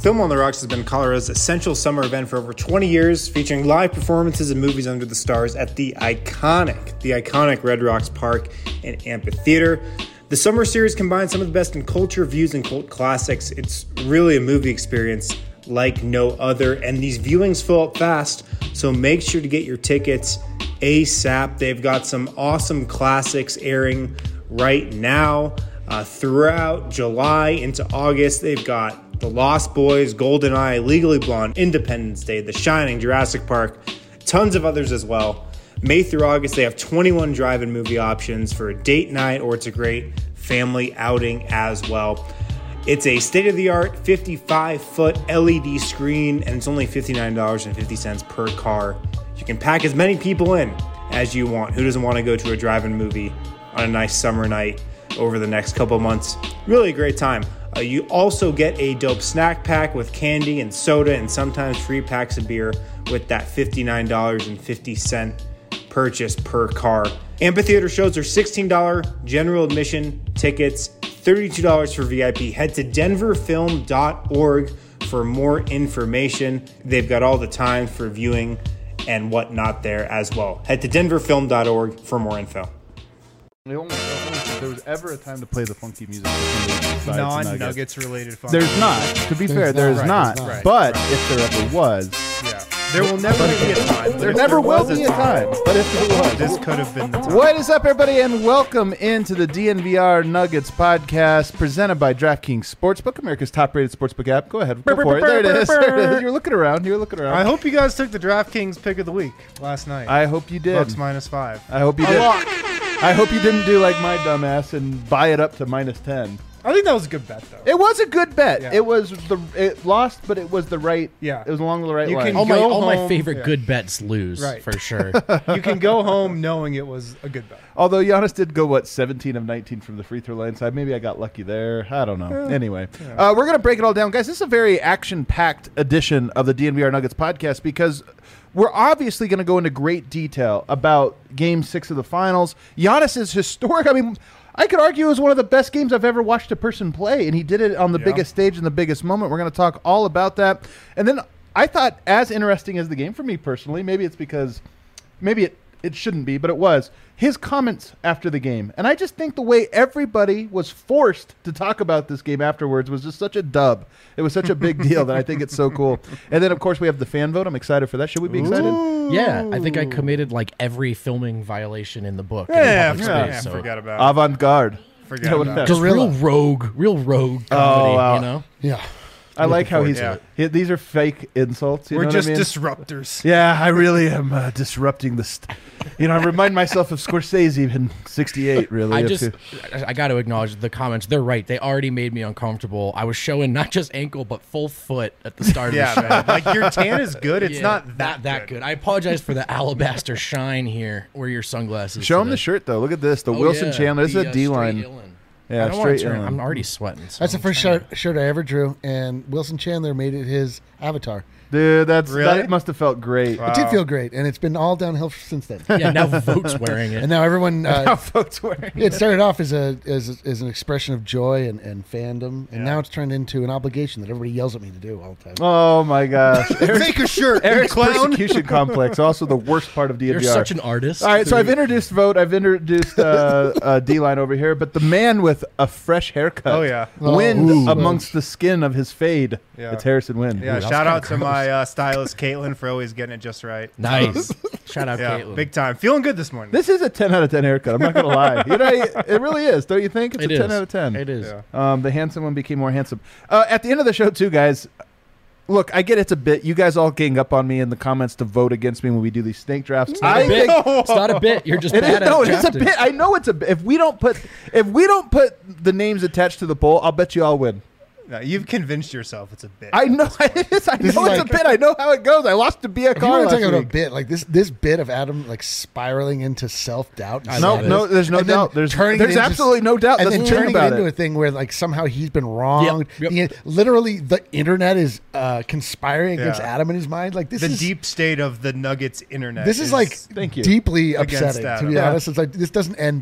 Film on the Rocks has been Colorado's essential summer event for over 20 years, featuring live performances and movies under the stars at the iconic Red Rocks Park and Amphitheater. The summer series combines some of the best in culture, views, and cult classics. It's really a movie experience like no other, and these viewings fill up fast, so make sure to get your tickets ASAP. They've got some awesome classics airing right now throughout July into August. They've got The Lost Boys, GoldenEye, Legally Blonde, Independence Day, The Shining, Jurassic Park, tons of others as well. May through August, they have 21 drive-in movie options for a date night, or it's a great family outing as well. It's a state-of-the-art 55-foot LED screen, and it's only $59.50 per car. You can pack as many people in as you want. Who doesn't want to go to a drive-in movie on a nice summer night over the next couple months? Really a great time. You also get a dope snack pack with candy and soda and sometimes free packs of beer with that $59.50 purchase per car. Amphitheater shows are $16 general admission tickets, $32 for VIP. Head to denverfilm.org for more information. They've got all the times for viewing and whatnot there as well. Head to denverfilm.org for more info. If there was ever a time to play the funky music, Non-Nuggets related funky. There's not. To be fair, there's not. Right. But if there ever was, there will never be a time. there never will be a time. But if there was, this could have been the time. What is up, everybody, and welcome into the DNVR Nuggets podcast presented by DraftKings Sportsbook, America's top-rated sportsbook app. Go ahead, go for it. There it is. There it is. You're looking around. I hope you guys took the DraftKings pick of the week last night. I hope you did. Bucks -5. I hope you did. I hope you didn't do like my dumbass and buy it up to -10. I think that was a good bet, though. It was a good bet. Yeah. It lost, but it was the right. Yeah. It was along the right line. All my favorite good bets lose, for sure. You can go home knowing it was a good bet. Although Giannis did go 17 of 19 from the free throw line side. Maybe I got lucky there. I don't know. Anyway, we're gonna break it all down, guys. This is a very action-packed edition of the DNVR Nuggets podcast because we're obviously going to go into great detail about Game 6 of the Finals. Giannis is historic. I mean, I could argue it was one of the best games I've ever watched a person play, and he did it on the biggest stage in the biggest moment. We're going to talk all about that. And then I thought, as interesting as the game for me personally, maybe it's because maybe it shouldn't be, but it was, his comments after the game. And I just think the way everybody was forced to talk about this game afterwards was just such a dub. It was such a big deal that I think it's so cool. And then, of course, we have the fan vote. I'm excited for that. Should we be excited? Yeah, I think I committed like every filming violation in the book. So. Forgot about it. Avant-garde. Forgot about it. Just real rogue comedy, wow. you know? Yeah. I like how these are fake insults. We're just disruptors. Yeah, I really am disrupting the. I remind myself of Scorsese in '68. Really, I got to acknowledge the comments. They're right. They already made me uncomfortable. I was showing not just ankle but full foot at the start of the show. Man. Like your tan is good. It's not that good. I apologize for the alabaster shine here. Where your sunglasses? Show him the shirt though. Look at this. The Wilson Chandler. This is a D-line. Yeah, straight. I'm already sweating. So that's the first shirt I ever drew, and Wilson Chandler made it his avatar. Dude, that must have felt great. Wow. It did feel great, and it's been all downhill since then. Yeah, now Vote's wearing it, and now everyone. Vote's wearing it. It started off as an expression of joy and fandom, and now it's turned into an obligation that everybody yells at me to do all the time. Oh my gosh! Make a shirt. Eric's persecution complex, also the worst part of DNVR. You're such an artist. All right, so I've introduced Vote. I've introduced D-Line over here, but the man with a fresh haircut. Wind amongst the skin of his fade. Yeah. It's Harrison Wind. Yeah, shout out to my stylist Caitlin for always getting it just right. Nice. Shout out Caitlin. Big time. Feeling good this morning. This is a 10 out of 10 haircut. I'm not going to lie. It really is. Don't you think? It's a 10 out of 10. It is. Yeah. The handsome one became more handsome. At the end of the show, too, guys, look, I get it's a bit. You guys all gang up on me in the comments to vote against me when we do these snake drafts. It's not a bit. You're just bad at drafting. It's a bit. I know it's a bit. If we don't put the names attached to the poll, I'll bet you I'll win. No, you've convinced yourself it's a bit. I know it is. I know it's a bit. I know how it goes. I lost to be a car. You're talking about a bit like this bit of Adam like spiraling into self-doubt. No, there's no doubt. There's absolutely no doubt. And then turning it into a thing where like somehow he's been wronged. Yep. Literally, the internet is conspiring against Adam in his mind. Like this is the deep state of the Nuggets internet. This is like deeply upsetting. To be honest, it's like this doesn't end well.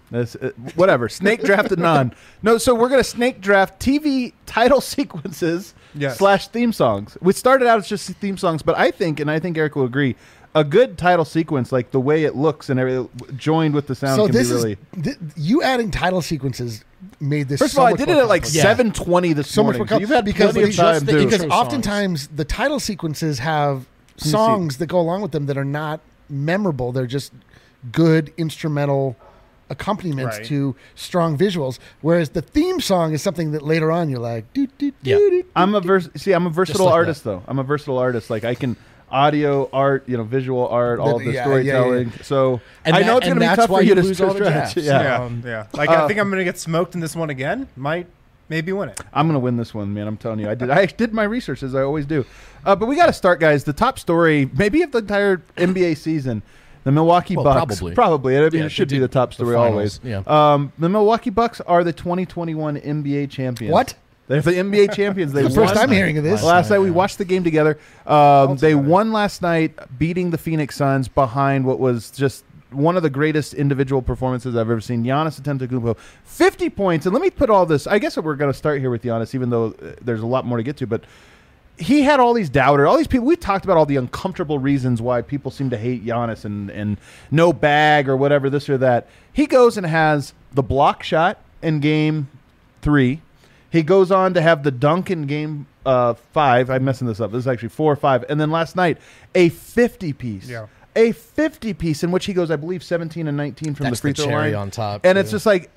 Whatever. Snake drafted none. No, so we're going to snake draft TV title sequences / theme songs. We started out as just theme songs, but I think Eric will agree, a good title sequence, like the way it looks and everything, joined with the sound, so can this be really... you adding title sequences made this. First of all, I did it at like 7:20 this morning. So you've had plenty of time to... Because oftentimes the title sequences have songs that go along with them that are not memorable. They're just good instrumental accompaniments to strong visuals, whereas the theme song is something that later on you're like, I'm a versatile artist, though. I'm a versatile artist. Like, I can audio, art, visual art, all the storytelling. So I know it's going to be tough for you to lose all the drafts. Like, I think I'm going to get smoked in this one again. Maybe win it. I'm going to win this one, man. I'm telling you. I did my research, as I always do. But we got to start, guys. The top story, maybe of the entire NBA season, the Milwaukee Bucks. Probably. I mean, it should be the top story always. The Milwaukee Bucks are the 2021 NBA champions. What? They're the NBA champions. The first time hearing of this. Last night we watched the game together. They won last night, beating the Phoenix Suns behind what was just one of the greatest individual performances I've ever seen. Giannis Antetokounmpo, 50 points. And let me put all this. I guess we're going to start here with Giannis, even though there's a lot more to get to. But he had all these doubters, all these people. We talked about all the uncomfortable reasons why people seem to hate Giannis and no bag or whatever, this or that. He goes and has the block shot in game 3. He goes on to have the dunk in game 5. I'm messing this up. This is actually 4 or 5. And then last night, a 50-piece. Yeah. A 50-piece in which he goes, I believe, 17 and 19 from the free throw line. On top. And it's just like,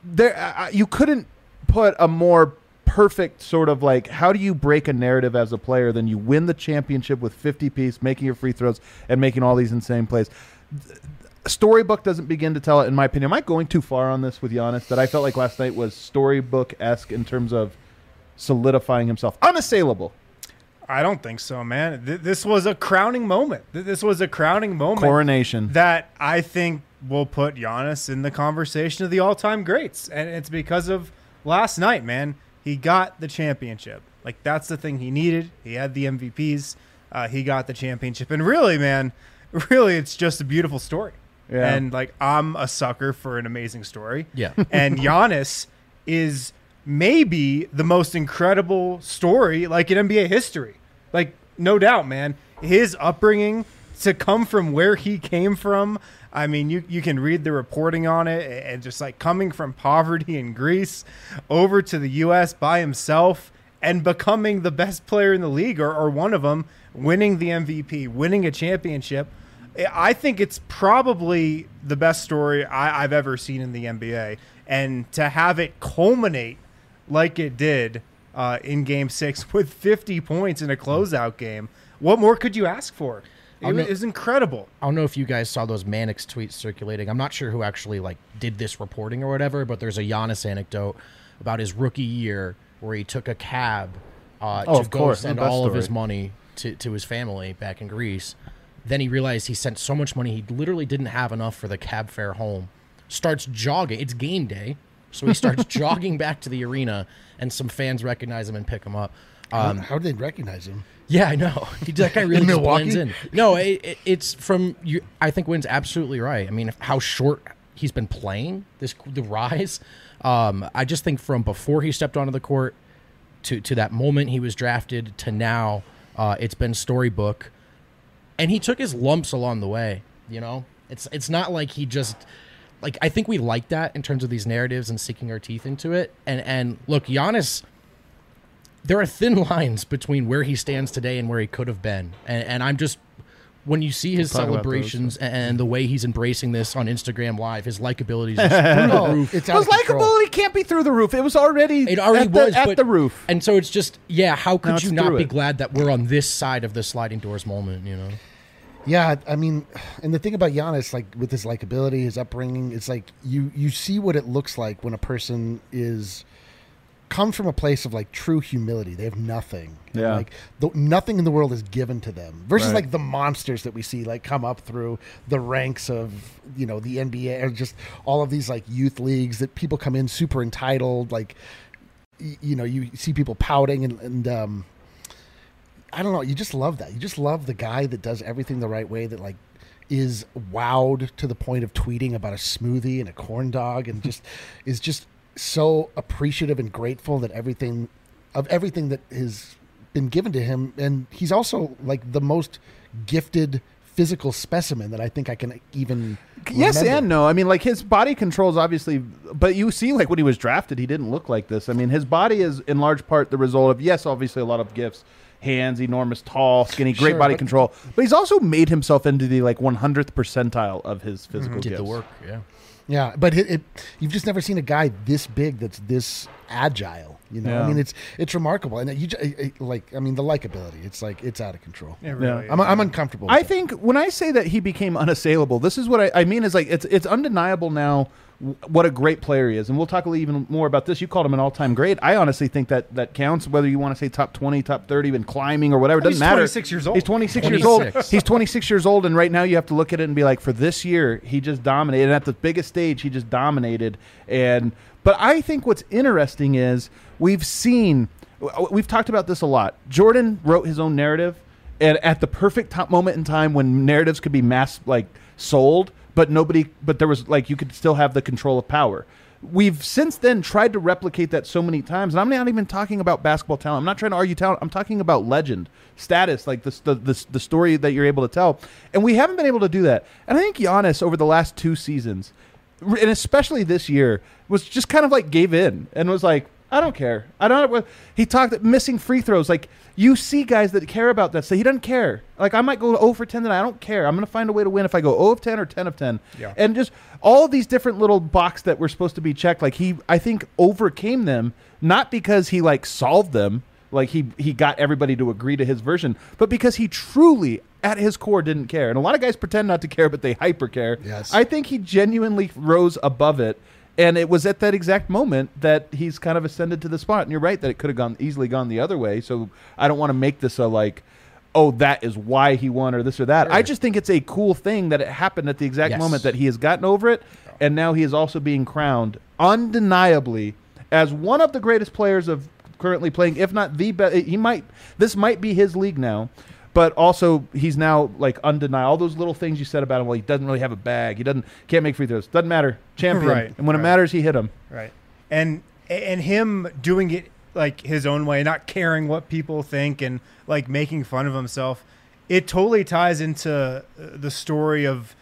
you couldn't put a more perfect sort of like, how do you break a narrative as a player than you win the championship with 50-piece, making your free throws, and making all these insane plays. Storybook doesn't begin to tell it, in my opinion. Am I going too far on this with Giannis? That I felt like last night was storybook-esque in terms of solidifying himself. Unassailable. I don't think so, man. This was a crowning moment. This was a crowning moment. Coronation. That I think will put Giannis in the conversation of the all-time greats. And it's because of last night, man. He got the championship. Like, that's the thing he needed. He had the MVPs. He got the championship. And really, man, it's just a beautiful story. Yeah. And, like, I'm a sucker for an amazing story. Yeah. And Giannis is maybe the most incredible story, like, in NBA history. Like, no doubt, man. His upbringing, to come from where he came from, I mean, you can read the reporting on it, and just, like, coming from poverty in Greece over to the U.S. by himself and becoming the best player in the league, or one of them, winning the MVP, winning a championship. I think it's probably the best story I've ever seen in the NBA. And to have it culminate like it did in Game 6 with 50 points in a closeout game, what more could you ask for? It was incredible. I don't know if you guys saw those Mannix tweets circulating. I'm not sure who actually did this reporting or whatever, but there's a Giannis anecdote about his rookie year where he took a cab to go send all of his money to his family back in Greece. Then he realized he sent so much money he literally didn't have enough for the cab fare home. Starts jogging. It's game day. So he starts jogging back to the arena, and some fans recognize him and pick him up. How did they recognize him? Yeah, I know. That guy really just blends in. No, it's from you. I think Wynn's absolutely right. I mean, how short he's been playing, the rise. I just think from before he stepped onto the court to that moment he was drafted to now, it's been storybook. And he took his lumps along the way, It's not like he just... Like, I think we like that in terms of these narratives and sinking our teeth into it. And look, Giannis, there are thin lines between where he stands today and where he could have been. And I'm just... When you see his celebrations and the way he's embracing this on Instagram Live, his likability is just through the roof. His likability can't be through the roof. It was already at the roof. And so it's just, how could you not be glad that we're on this side of the sliding doors moment, Yeah, I mean, and the thing about Giannis, like with his likability, his upbringing, it's like you see what it looks like when a person comes from a place of like true humility. They have nothing. Yeah. And, like nothing in the world is given to them versus like the monsters that we see like come up through the ranks of, the NBA or just all of these like youth leagues that people come in super entitled. Like, you see people pouting and I don't know. You just love that. You just love the guy that does everything the right way, that like is wowed to the point of tweeting about a smoothie and a corn dog, and just is just so appreciative and grateful that everything that has been given to him. And he's also like the most gifted physical specimen that I think I can even yes remember. And no. I mean, like, his body controls obviously, but you see, like, when he was drafted, he didn't look like this. I mean, his body is in large part the result of, yes, obviously a lot of gifts. Hands, enormous, tall, skinny, great Sure, body control. But he's also made himself into the like 100th percentile of his physical Did gifts. the work, yeah. Yeah, but you've just never seen a guy this big that's this agile. You know, Yeah. I mean, it's remarkable, and the likability. It's like it's out of control. It really is. I'm uncomfortable. With I that. think when I say that he became unassailable, this is what I mean is like it's undeniable now what a great player he is. And we'll talk even more about this. You called him an all-time great. I honestly think that counts, whether you want to say top 20, top 30, even climbing or whatever. It doesn't matter. He's 26 years old. He's 26 years old. He's 26 years old, and right now you have to look at it and be like, for this year, he just dominated. And at the biggest stage, he just dominated. But I think what's interesting is we've talked about this a lot. Jordan wrote his own narrative, and at the perfect moment in time when narratives could be sold, but there was like, you could still have the control of power. We've since then tried to replicate that so many times, and I'm not even talking about basketball talent. I'm not trying to argue talent. I'm talking about legend, status, like the story that you're able to tell, and we haven't been able to do that. And I think Giannis over the last 2 seasons, and especially this year, was just kind of like gave in and was like, I don't care. He talked missing free throws. Like, you see guys that care about that. So he doesn't care. Like, I might go 0 for 10 tonight. I don't care. I'm going to find a way to win if I go 0 of 10 or 10 of 10. Yeah. And just all these different little boxes that were supposed to be checked. Like, I think, overcame them, not because he like solved them. Like he got everybody to agree to his version, but because he truly, at his core, didn't care. And a lot of guys pretend not to care, but they hyper care. Yes. I think he genuinely rose above it. And it was at that exact moment that he's kind of ascended to the spot. And you're right that it could have easily gone the other way. So I don't want to make this a like, oh, that is why he won or this or that. Sure. I just think it's a cool thing that it happened at the exact Yes. moment that he has gotten over it. And now he is also being crowned undeniably as one of the greatest players of currently playing, if not the best. This might be his league now. But also, he's now like undeniable. All those little things you said about him, well, he doesn't really have a bag. He can't make free throws. Doesn't matter. Champion. Right, And when it right. matters, he hit them. Right. And him doing it like his own way, not caring what people think and like making fun of himself, it totally ties into the story of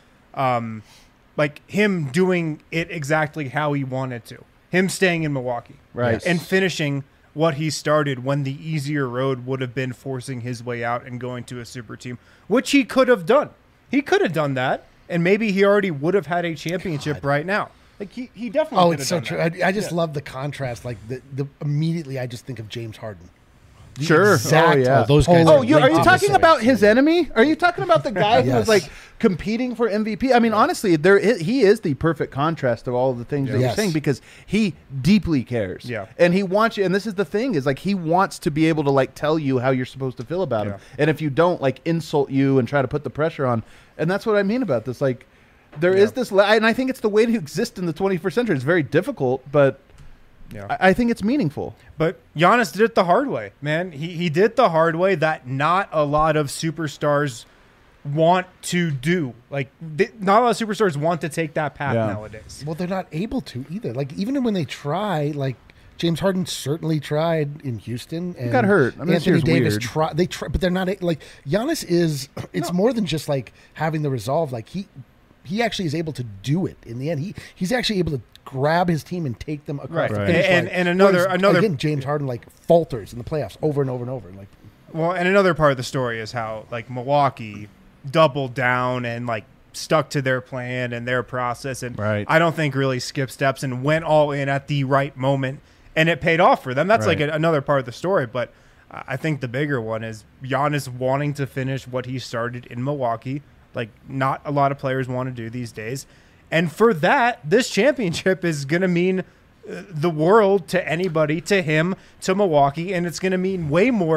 like him doing it exactly how he wanted to. Him staying in Milwaukee. Right. And finishing what he started when the easier road would have been forcing his way out and going to a super team, which he could have done. He could have done that, and maybe he already would have had a championship right now. Like he definitely. Oh, could it's have so done true. that. I just love the contrast. Like the immediately, I just think of James Harden. The Sure. exact Oh, yeah. Those guys polar are Are you opposite. talking about his enemy? Are you talking about the guy who was Yes. like competing for MVP? I mean, honestly, he is the perfect contrast of all of the things that you're Yes. saying, because he deeply cares. Yeah. And he wants you, and this is the thing, is like he wants to be able to like tell you how you're supposed to feel about him. Yeah. And if you don't, like insult you and try to put the pressure on. And that's what I mean about this. Like there is this, and I think it's the way to exist in the 21st century. It's very difficult, but Yeah. I think it's meaningful. But Giannis did it the hard way, man. He did it the hard way that not a lot of superstars want to do. Like, not a lot of superstars want to take that path Yeah. nowadays. Well, they're not able to either. Like even when they try, like James Harden certainly tried in Houston and got hurt. I mean, this Anthony year's Davis weird. tried. They try, but they're not like Giannis is. It's more than just like having the resolve. Like he actually is able to do it in the end. He's actually able to grab his team and take them across the Right. finish And- line. and another- Whereas, again, James Harden like falters in the playoffs over and over and over. Like Well, and another part of the story is how like Milwaukee doubled down and like stuck to their plan and their process, and Right. I don't think really skipped steps and went all in at the right moment, and it paid off for them. That's Right. like another part of the story, but I think the bigger one is Giannis wanting to finish what he started in Milwaukee, like not a lot of players want to do these days. And for that, this championship is going to mean the world to anybody, to him, to Milwaukee, and it's going to mean way more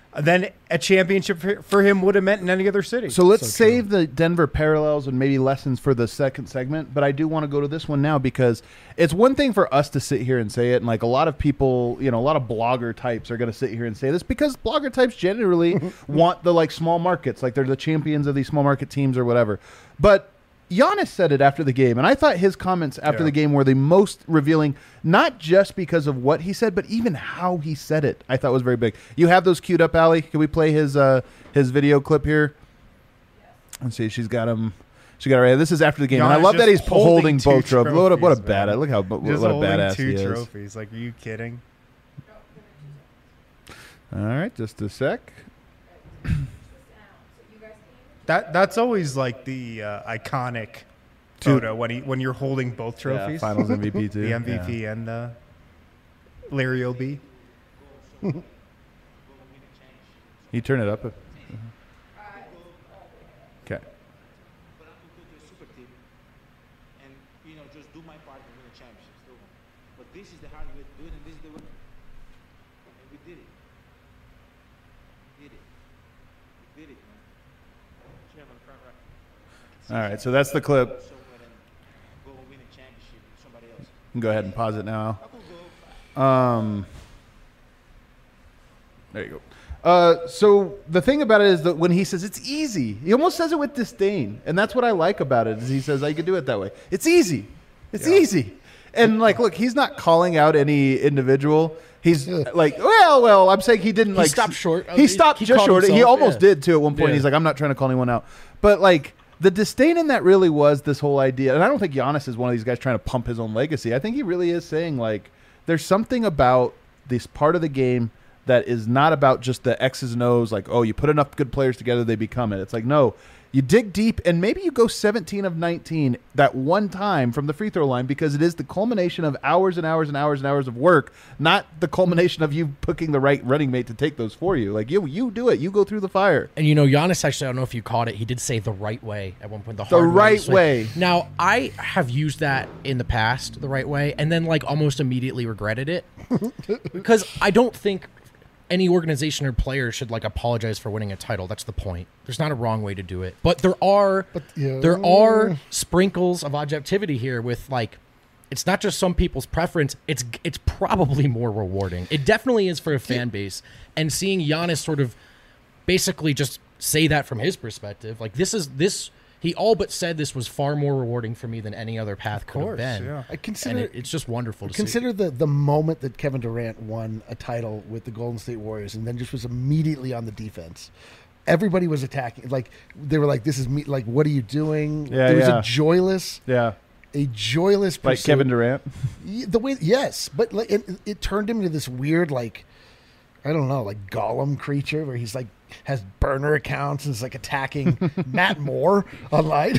than a championship for him would have meant in any other city. So let's save the Denver parallels and maybe lessons for the second segment, but I do want to go to this one now because it's one thing for us to sit here and say it, and like a lot of people, a lot of blogger types are going to sit here and say this because blogger types generally want the like small markets, like they're the champions of these small market teams or whatever. But Giannis said it after the game, and I thought his comments after the game were the most revealing, not just because of what he said, but even how he said it. I thought was very big. You have those queued up, Allie? Can we play his video clip here? Let's see. She's got him. She got it right. This is after the game, and I love that he's holding both trophies. What a badass! Look how what a badass he is. Trophies. Like, are you kidding? All right, just a sec. That's always like the iconic photo when you're holding both trophies. Yeah, Finals MVP too. The MVP and Larry O'B. You turn it up. Okay. Just do my part and win a championship. But this is the hard way to do it, and this is the way. And we did it. We did it, man. Chairman, front right. All right, so that's the clip. Go win a championship with somebody else. You can go ahead and pause it now. There you go. So the thing about it is that when he says it's easy, he almost says it with disdain, and that's what I like about it. Is he says I could do it that way. It's easy. It's easy. And like, look, he's not calling out any individual. He's like, well, I'm saying he didn't like. He stopped short. He stopped just short. Himself, he almost did too at one point. He's like, I'm not trying to call anyone out, but like. The disdain in that really was this whole idea, and I don't think Giannis is one of these guys trying to pump his own legacy. I think he really is saying, like, there's something about this part of the game that is not about just the X's and O's, like, oh, you put enough good players together, they become it. It's like, no, you dig deep, and maybe you go 17 of 19 that one time from the free throw line because it is the culmination of hours and hours and hours and hours of work, not the culmination of you picking the right running mate to take those for you. Like, you do it. You go through the fire. And, Giannis, actually, I don't know if you caught it, he did say the right way at one point. The hard right way. Now, I have used that in the past, the right way, and then, like, almost immediately regretted it because I don't think any organization or player should like apologize for winning a title. That's the point. There's not a wrong way to do it. But there are sprinkles of objectivity here with like it's not just some people's preference. It's probably more rewarding. It definitely is for a fan base. And seeing Giannis sort of basically just say that from his perspective, like this he all but said this was far more rewarding for me than any other path could have been. Yeah. I consider it's just wonderful to consider the moment that Kevin Durant won a title with the Golden State Warriors and then just was immediately on the defense. Everybody was attacking. Like they were like, "This is me." Like, what are you doing? Yeah, there was a joyless pursuit. Like Kevin Durant. But like, it turned him into this weird like. I don't know, like Gollum creature where he's like has burner accounts and is like attacking Matt Moore online,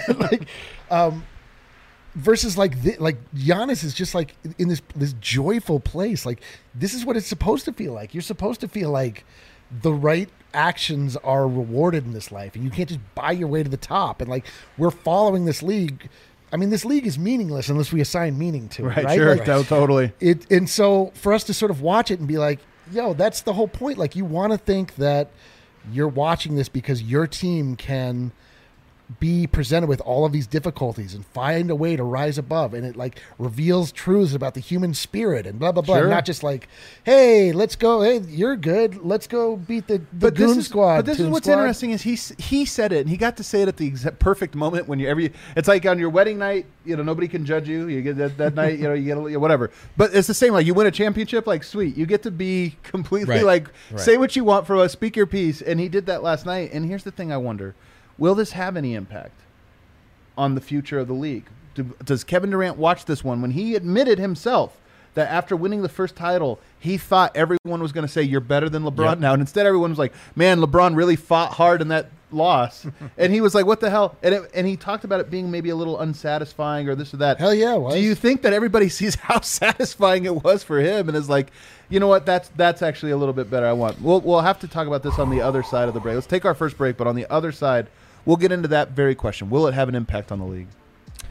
versus like Giannis is just like in this joyful place. Like this is what it's supposed to feel like. You're supposed to feel like the right actions are rewarded in this life, and you can't just buy your way to the top. And like we're following this league. I mean, this league is meaningless unless we assign meaning to it, right? Sure, like, totally. And so for us to sort of watch it and be like, yo, that's the whole point. Like, you want to think that you're watching this because your team can be presented with all of these difficulties and find a way to rise above, and it like reveals truths about the human spirit and blah blah blah. Sure. Not just like, hey, let's go. Hey, you're good. Let's go beat the Goon Squad. But this is what's interesting is he said it, and he got to say it at the exact perfect moment when it's like on your wedding night. Nobody can judge you. You get that night. You get whatever. But it's the same. Like you win a championship. Like sweet, you get to be completely say what you want for us. Speak your piece. And he did that last night. And here's the thing: I wonder. Will this have any impact on the future of the league? Does Kevin Durant watch this one when he admitted himself that after winning the first title, he thought everyone was going to say, you're better than LeBron now. And instead, everyone was like, man, LeBron really fought hard in that loss. And he was like, what the hell? And he talked about it being maybe a little unsatisfying or this or that. Hell yeah, it was. Do you think that everybody sees how satisfying it was for him and is like, you know what, that's actually a little bit better. We'll have to talk about this on the other side of the break. Let's take our first break, but on the other side, we'll get into that very question. Will it have an impact on the league?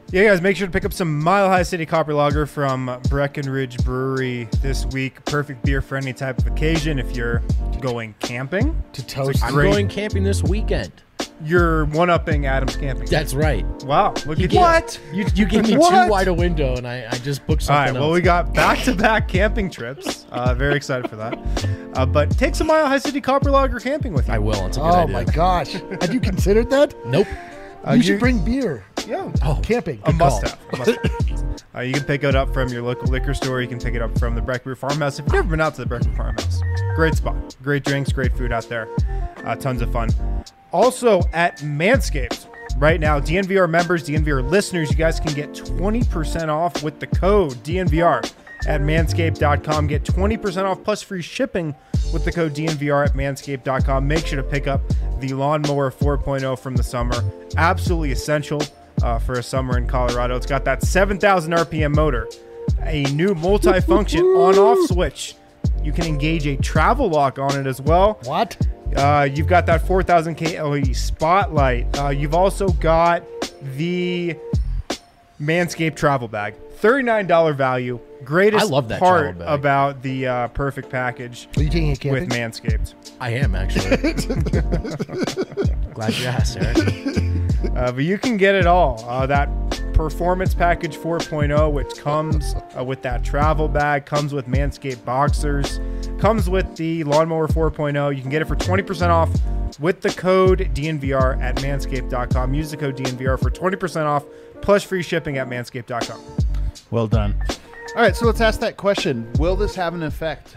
Yeah, guys, make sure to pick up some Mile High City Copper Lager from Breckenridge Brewery this week. Perfect beer for any type of occasion. If you're going camping, To toast. I'm Great. going camping this weekend. you're one-upping Adam's Camping. That's right. Wow, look at What? You gave me What? too wide a window, and I just booked All something right, well, else. we got back-to-back camping trips. Very excited for that. But take some Mile High City Copper Lager camping with you. I will. It's a good Oh idea. my gosh! Have you considered that? Nope. You should you- bring beer. Yeah. Oh, Camping. A Good must-have. You can pick it up from your local liquor store. You can pick it up from the Breckbrew Farmhouse. If you've never been out to the Breckbrew Farmhouse, great spot. Great drinks, great food out there. Tons of fun. Also at Manscaped, right now, DNVR members, DNVR listeners, you guys can get 20% off with the code DNVR at manscaped.com. Get 20% off plus free shipping with the code DNVR at manscaped.com. Make sure to pick up the Lawnmower 4.0 from the summer. Absolutely essential for a summer in Colorado. It's got that 7,000 RPM motor, a new multi-function on-off switch. You can engage a travel lock on it as well. What? You've got that 4,000K LED spotlight. You've also got the Manscaped travel bag. $39 value. Greatest I love that part travel bag. about the perfect package Are you taking it camping? with Manscaped. I am actually. Glad you asked, Eric. But you can get it all. That Performance Package 4.0, which comes with that travel bag, comes with Manscaped boxers, comes with the Lawnmower 4.0. You can get it for 20% off with the code DNVR at manscaped.com. Use the code DNVR for 20% off plus free shipping at manscaped.com. Well done. All right, so let's ask that question. Will this have an effect?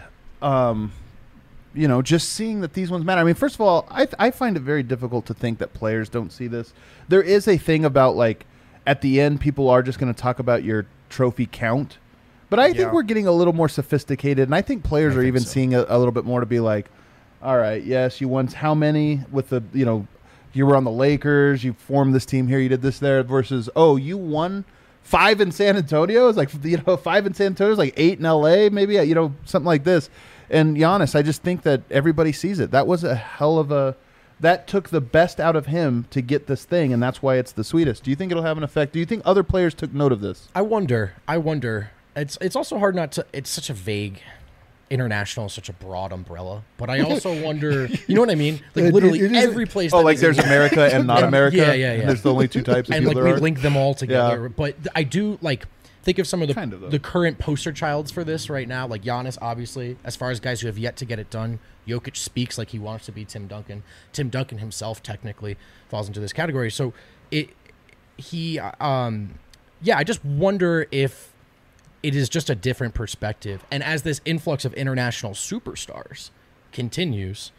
Just seeing that these ones matter. I mean, first of all, I find it very difficult to think that players don't see this. There is a thing about, like, at the end, people are just going to talk about your trophy count. But I think Yeah. we're getting a little more sophisticated, and I think players are think even so. seeing a little bit more to be like, all right, yes, you won how many with the, you were on the Lakers, you formed this team here, you did this there, versus, oh, you won 5 in San Antonio? It's like, 5 in San Antonio is like 8 in LA, maybe, something like this. And Giannis, I just think that everybody sees it. That was a hell of a... That took the best out of him to get this thing, and that's why it's the sweetest. Do you think it'll have an effect? Do you think other players took note of this? I wonder. It's also hard not to. It's such a vague. International is such a broad umbrella, but I also wonder. You know what I mean? Like literally it is- every place. Oh, that like is there's in- America and not America? Yeah, yeah. And there's the only two types of and people like there we are? link them all together. Yeah. But I do like think of some of Kind of, though. the current poster childs for this right now, like Giannis, obviously. As far as guys who have yet to get it done, Jokic speaks like he wants to be Tim Duncan. Tim Duncan himself technically falls into this category. So I just wonder if it is just a different perspective. And as this influx of international superstars continues,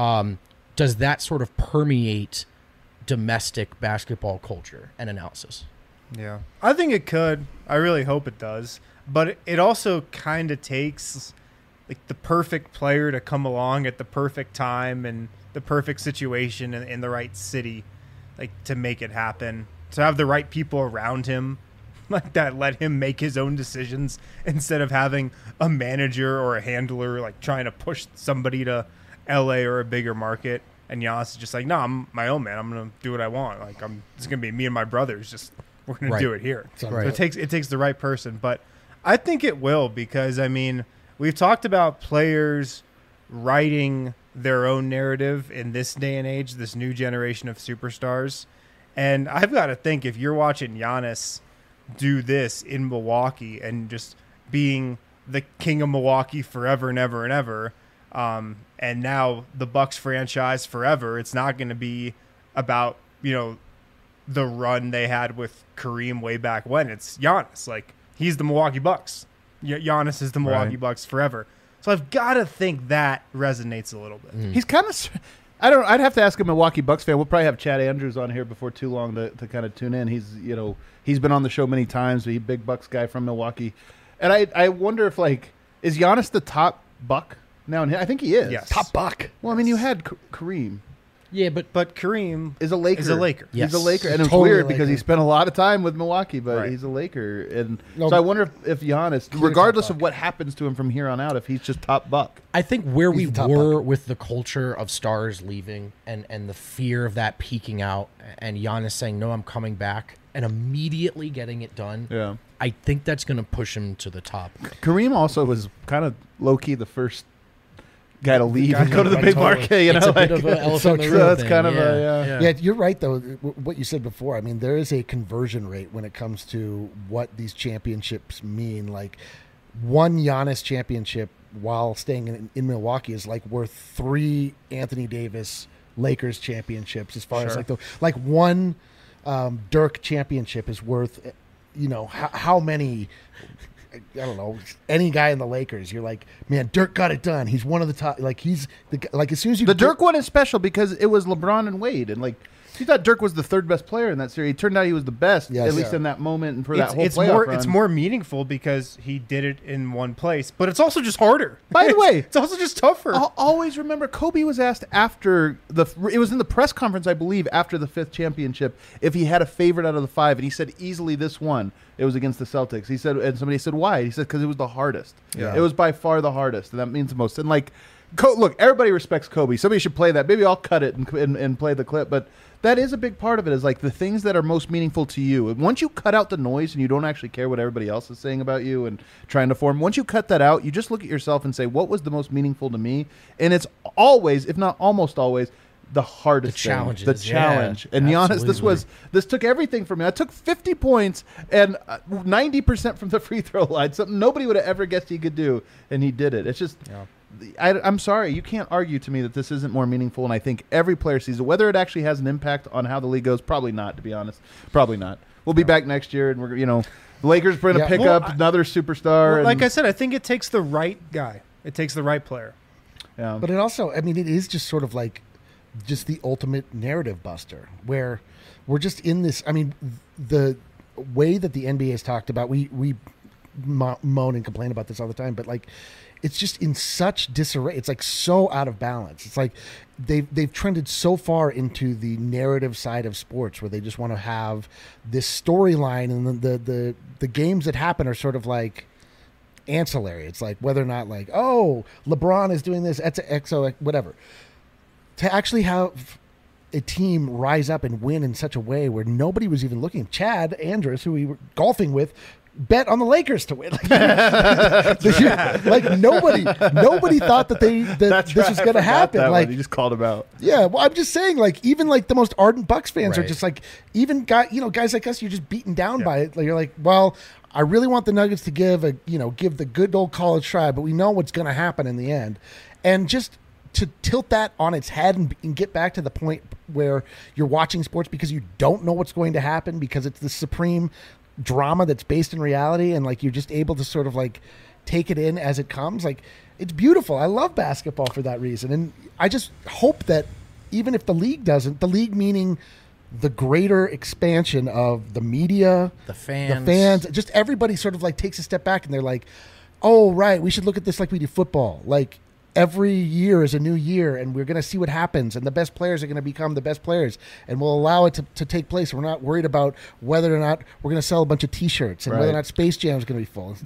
does that sort of permeate domestic basketball culture and analysis? Yeah, I think it could. I really hope it does. But it also kind of takes like the perfect player to come along at the perfect time and the perfect situation in the right city, like to make it happen. To have the right people around him, like that, let him make his own decisions instead of having a manager or a handler like trying to push somebody to LA or a bigger market. And Giannis is just like, no, I'm my own man. I'm gonna do what I want. Like it's gonna be me and my brothers. Just we're gonna Right. do it here. So Right. it takes the right person, but I think it will because I mean we've talked about players writing their own narrative in this day and age, this new generation of superstars, and I've got to think if you're watching Giannis do this in Milwaukee and just being the king of Milwaukee forever and ever and ever, and now the Bucks franchise forever, it's not going to be about the run they had with Kareem way back when. It's Giannis. Like, he's the Milwaukee Bucks. Giannis is the Milwaukee Right. Bucks forever. So I've got to think that resonates a little bit. He's kind of... I'd have to ask a Milwaukee Bucks fan. We'll probably have Chad Andrews on here before too long to kind of tune in. He's been on the show many times. He's a big Bucks guy from Milwaukee. And I wonder if, like, is Giannis the top Buck now? I think he is. Yes. Top buck. Well, I mean, you had Kareem. Yeah, but But Kareem Is a Laker. Is a Laker. Yes. He's a Laker. And it's Totally weird a because he Laker. spent a lot of time with Milwaukee, but Right. he's a Laker. And No, so I wonder if Giannis, top regardless Buck. of what happens to him from here on out, if he's just top Buck. I think where we He's the top were with the culture of stars leaving and the fear of that peaking out and Giannis saying, no, I'm coming back. and immediately getting it done. Yeah. I think that's going to push him to the top. Kareem also was kind of low-key the first guy to leave and go to the Right, big totally. market. You It's know, a bit like, of an elephant so in the true. room That's thing. kind of a, Yeah, you're right, though. What you said before, I mean, there is a conversion rate when it comes to what these championships mean. Like, one Giannis championship while staying in Milwaukee is like worth 3 Anthony Davis Lakers championships. As far as like one Dirk championship is worth, how many. I don't know, any guy in the Lakers. You're like, man, Dirk got it done. He's one of the top. Like, he's like, as soon as you the Dirk one is special because it was LeBron and Wade, and like you thought Dirk was the 3rd best player in that series. It turned out he was the best, Yes. at least in that moment and for that whole it's playoff more run. it's more meaningful because he did it in one place, but it's also just harder. By the way, it's also just tougher. I'll always remember Kobe was asked after it was in the press conference, I believe, after the 5th championship, if he had a favorite out of the 5, and he said easily this one. It was against the Celtics. He said, and somebody said why? He said because it was the hardest. Yeah. It was by far the hardest, and that means the most. And like, look, everybody respects Kobe. Somebody should play that. Maybe I'll cut it and play the clip, but. That is a big part of it, is like the things that are most meaningful to you. And once you cut out the noise and you don't actually care what everybody else is saying about you and trying to form, once you cut that out, you just look at yourself and say, what was the most meaningful to me? And it's always, if not almost always, the hardest thing. challenges, The yeah, challenge. And Giannis, absolutely. this took everything from me. I took 50 points and 90% from the free throw line, something nobody would have ever guessed he could do, and he did it. It's just... Yeah. I'm sorry, you can't argue to me that this isn't more meaningful, and I think every player sees it. Whether it actually has an impact on how the league goes, probably not, to be honest. Probably not. We'll be back next year, and we're the Lakers are going to pick up another superstar. Like I said, I think it takes the right guy. It takes the right player. Yeah. But it also, I mean, it is just sort of like just the ultimate narrative buster where we're just in this. I mean, the way that the NBA has talked about, we moan and complain about this all the time, but like, it's just in such disarray. It's like so out of balance. It's like they've trended so far into the narrative side of sports where they just want to have this storyline, and the games that happen are sort of like ancillary. It's like whether or not like, oh, LeBron is doing this, XO, whatever. To actually have a team rise up and win in such a way where nobody was even looking. Chad Andrus, who we were golfing with, bet on the Lakers to win. Like nobody thought that this was going to happen. Like, you just called him out. Yeah, well, I'm just saying, like, even like the most ardent Bucks fans are Right. just like, even guys like us, you're just beaten down by it. Like, you're like, well, I really want the Nuggets to give the good old college try, but we know what's going to happen in the end, and just to tilt that on its head and get back to the point where you're watching sports because you don't know what's going to happen because it's the supreme drama that's based in reality, and like you're just able to sort of like take it in as it comes. Like, it's beautiful. I love basketball for that reason, and I just hope that even if the league doesn't, the league meaning the greater expansion of the media, The fans. just everybody sort of like takes a step back and they're like, oh right, we should look at this like we do football. Like, every year is a new year, and we're going to see what happens, and the best players are going to become the best players, and we'll allow it to take place. We're not worried about whether or not we're going to sell a bunch of T-shirts and whether or Right. not Space Jam is going to be full.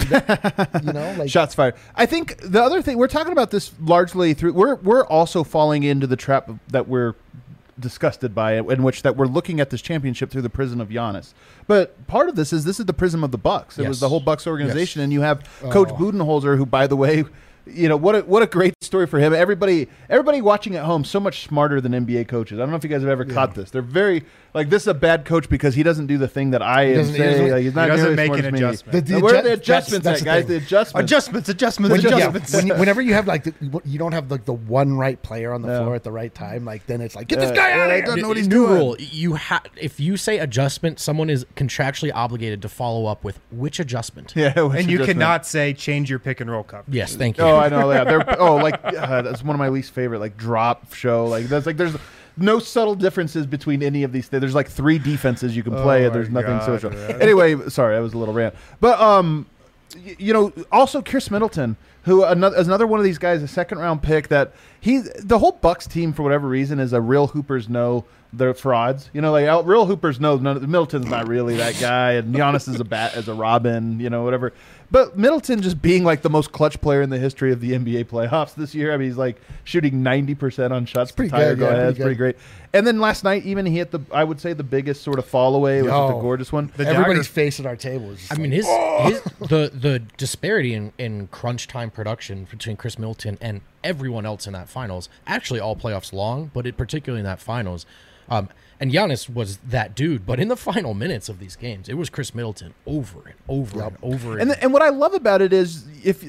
Like, Shots fired. I think the other thing, we're talking about this largely through, we're also falling into the trap that we're disgusted by it, in which that we're looking at this championship through the prism of Giannis. But part of this is the prism of the Bucks. It was Yes. the whole Bucks organization, and you have Coach Budenholzer, who, by the way, what a great story for him. Everybody watching at home, so much smarter than NBA coaches. I don't know if you guys have ever caught this. They're very like, this is a bad coach because he doesn't do the thing that I am saying. Like, he's not he doesn't nearly make smart an as me. adjustment. Where are the adjustments that's at, the guys? thing. The adjustments. Adjustments. whenever you have like you don't have like the one right player on the floor at the right time, like then it's like, get this guy out of I here. don't know what New he's doing. rule: if you say adjustment, someone is contractually obligated to follow up with which adjustment. Yeah, which And you adjustment? cannot say change your pick and roll coverage. Yes, thank you. Oh, I know that. That's one of my least favorite, like, drop show. Like, there's no subtle differences between any of these things. There's like 3 defenses you can play, and there's nothing social. man. Anyway, sorry, that was a little rant. But also Chris Middleton, who is another one of these guys, a second-round pick that the whole Bucks team, for whatever reason, is a real hoopers know they're frauds. You know, like real hoopers know Middleton's not really that guy, and Giannis is a Robin, you know, whatever. But Middleton just being like the most clutch player in the history of the NBA playoffs this year. I mean, he's like shooting 90% on shots. Pretty good. It's pretty great. And then last night, even he hit the biggest sort of fall away. It was just a gorgeous one. Everybody's face at our table is just the disparity in crunch time production between Chris Middleton and everyone else in that finals, actually all playoffs long, but particularly in that finals. And Giannis was that dude, but in the final minutes of these games, it was Chris Middleton over and over and over. And what I love about it is, if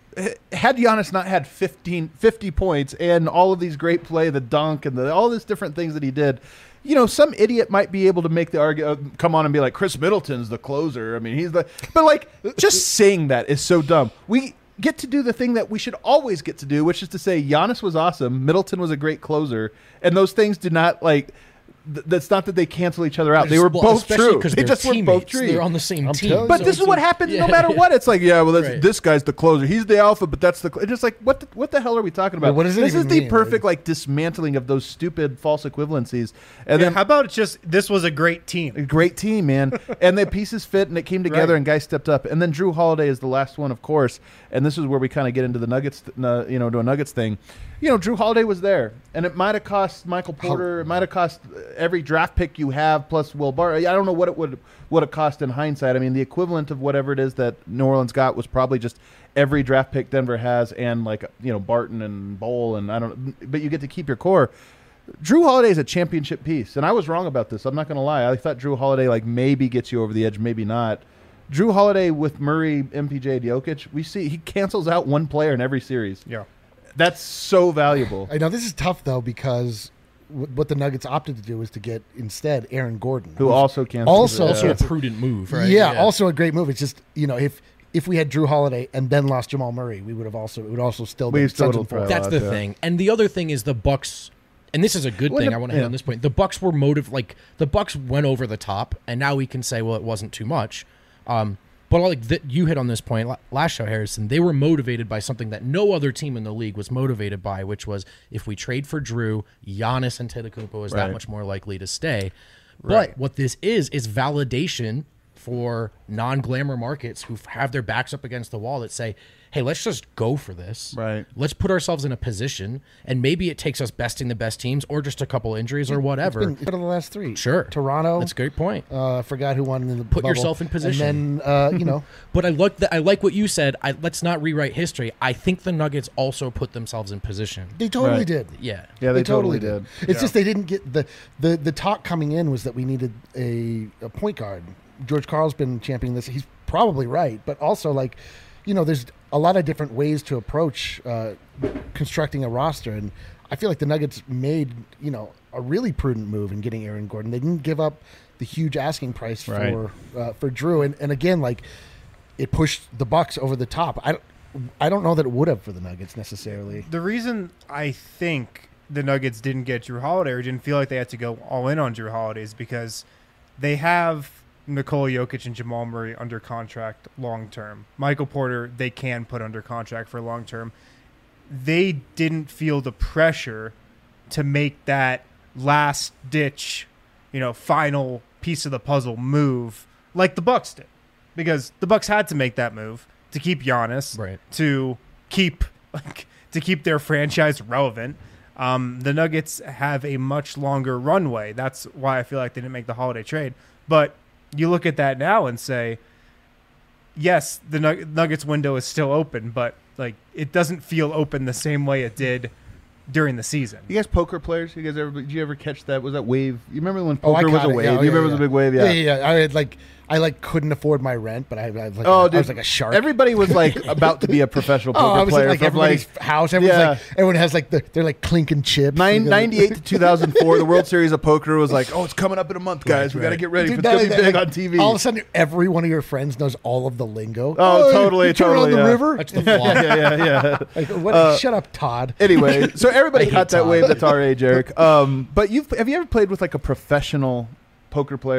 had Giannis not had 50 points and all of these great play, the dunk and all these different things that he did, you know, some idiot might be able to make the argument, come on and be like, Chris Middleton's the closer. I mean, but like, just saying that is so dumb. We get to do the thing that we should always get to do, which is to say Giannis was awesome, Middleton was a great closer, and those things did not like. That's not that they cancel each other out. They were both true. They just were both true. They're on the same team. But this is what happens no matter what. It's like, this guy's the closer. He's the alpha, but that's the. It's just like, what the hell are we talking about? What does it this even is the mean? perfect like dismantling of those stupid false equivalencies. And then how about just this was a great team? A great team, man. And the pieces fit and it came together and guys stepped up. And then Drew Holiday is the last one, of course. And this is where we kind of get into the Nuggets, to a Nuggets thing. You know, Drew Holiday was there, and it might have cost Michael Porter. It might have cost every draft pick you have plus Will Barton. I don't know what it would have cost in hindsight. I mean, the equivalent of whatever it is that New Orleans got was probably just every draft pick Denver has, and like Barton and Bowl, and I don't. But you get to keep your core. Drew Holiday is a championship piece, and I was wrong about this. I'm not going to lie. I thought Drew Holiday like maybe gets you over the edge, maybe not. Drew Holiday with Murray, MPJ, Jokic, we see he cancels out one player in every series. Yeah. That's so valuable. I know this is tough, though, because what the Nuggets opted to do was to get, instead, Aaron Gordon. Who also canceled. Also a prudent move, right? Yeah, also a great move. It's just, if we had Drew Holiday and then lost Jamal Murray, it would also still be Suns and four. That's the thing. And the other thing is the Bucks, and this is a good thing I want to hit on this point. The Bucks were the Bucks went over the top, and now we can say, well, it wasn't too much. But like you hit on this point last show, Harrison, they were motivated by something that no other team in the league was motivated by, which was if we trade for Drew, Giannis Antetokounmpo is that much more likely to stay. Right. But what this is validation for non-glamour markets who have their backs up against the wall that say, hey, let's just go for this. Right. Let's put ourselves in a position, and maybe it takes us besting the best teams or just a couple injuries or whatever. It's been the last three. Sure. Toronto. That's a great point. I forgot who won in the Put bubble. yourself in position. And then, But I like what you said. Let's not rewrite history. I think the Nuggets also put themselves in position. They totally did. Yeah. Yeah, they totally did. It's just they didn't get the talk coming in was that we needed a point guard. George Karl's been championing this. He's probably right, but also there's a lot of different ways to approach constructing a roster, and I feel like the Nuggets made a really prudent move in getting Aaron Gordon. They didn't give up the huge asking price for Drew, and again, like it pushed the Bucks over the top. I don't know that it would have for the Nuggets necessarily. The reason I think the Nuggets didn't get Drew Holiday or didn't feel like they had to go all in on Drew Holiday is because they have Nikola Jokic and Jamal Murray under contract long term. Michael Porter, they can put under contract for long term. They didn't feel the pressure to make that last ditch, final piece of the puzzle move like the Bucks did, because the Bucks had to make that move to keep Giannis, right, to keep their franchise relevant. The Nuggets have a much longer runway. That's why I feel like they didn't make the Holiday trade. But you look at that now and say, yes, the Nuggets window is still open, but like it doesn't feel open the same way it did during the season. You guys poker players? Did you ever catch that? Was that wave? You remember when poker was a wave? Yeah, you remember it was a big wave? Yeah. I had I couldn't afford my rent, but I was like a shark. Everybody was like about to be a professional poker player. Like everybody's house. Everyone has they're like clinking chips. 98 to 2004, the World Series of Poker was like, it's coming up in a month, guys. We got to get ready. It's going to be big on TV. All of a sudden, every one of your friends knows all of the lingo. Oh, totally. Turn on the river. That's the flaw. yeah. Shut up, Todd. Anyway, so everybody caught that wave. That's our age, Eric. But have you ever played with like a professional poker player?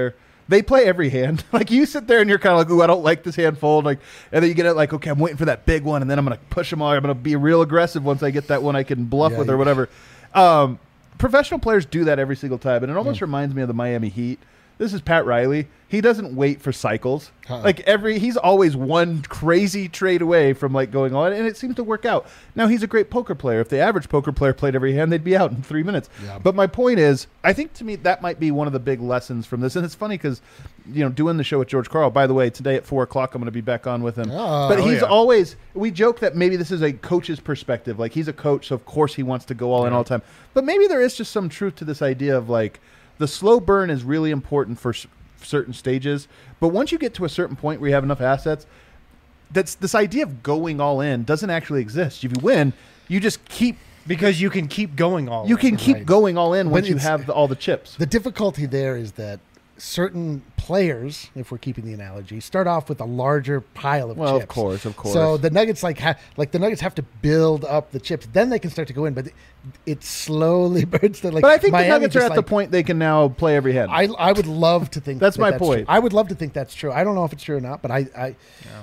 They play every hand. Like you sit there and you're kind of like, ooh, I don't like this hand fold. Like, and then you get it like, okay, I'm waiting for that big one, and then I'm gonna push them all. I'm gonna be real aggressive once I get that one I can bluff with or whatever. Professional players do that every single time, and it almost reminds me of the Miami Heat. This is Pat Riley. He doesn't wait for cycles. Like he's always one crazy trade away from like going on, and it seems to work out. Now he's a great poker player. If the average poker player played every hand, they'd be out in 3 minutes. Yeah. But my point is, I think to me that might be one of the big lessons from this. And it's funny because, doing the show with George Karl. By the way, today at 4:00 I'm going to be back on with him. But he's always. We joke that maybe this is a coach's perspective. Like he's a coach, so of course he wants to go all in all the time. But maybe there is just some truth to this idea of like the slow burn is really important for certain stages, but once you get to a certain point where you have enough assets, that's this idea of going all in doesn't actually exist. If you win, you just keep because you can keep going all. You can keep going all in once you have all the chips. The difficulty there is that certain players, if we're keeping the analogy, start off with a larger pile of chips. Well, of course. So the Nuggets the Nuggets have to build up the chips, then they can start to go in. But it slowly burns. But I think Miami the Nuggets are at the point they can now play every hand. I would love to think that's my point. True. I would love to think that's true. I don't know if it's true or not, but I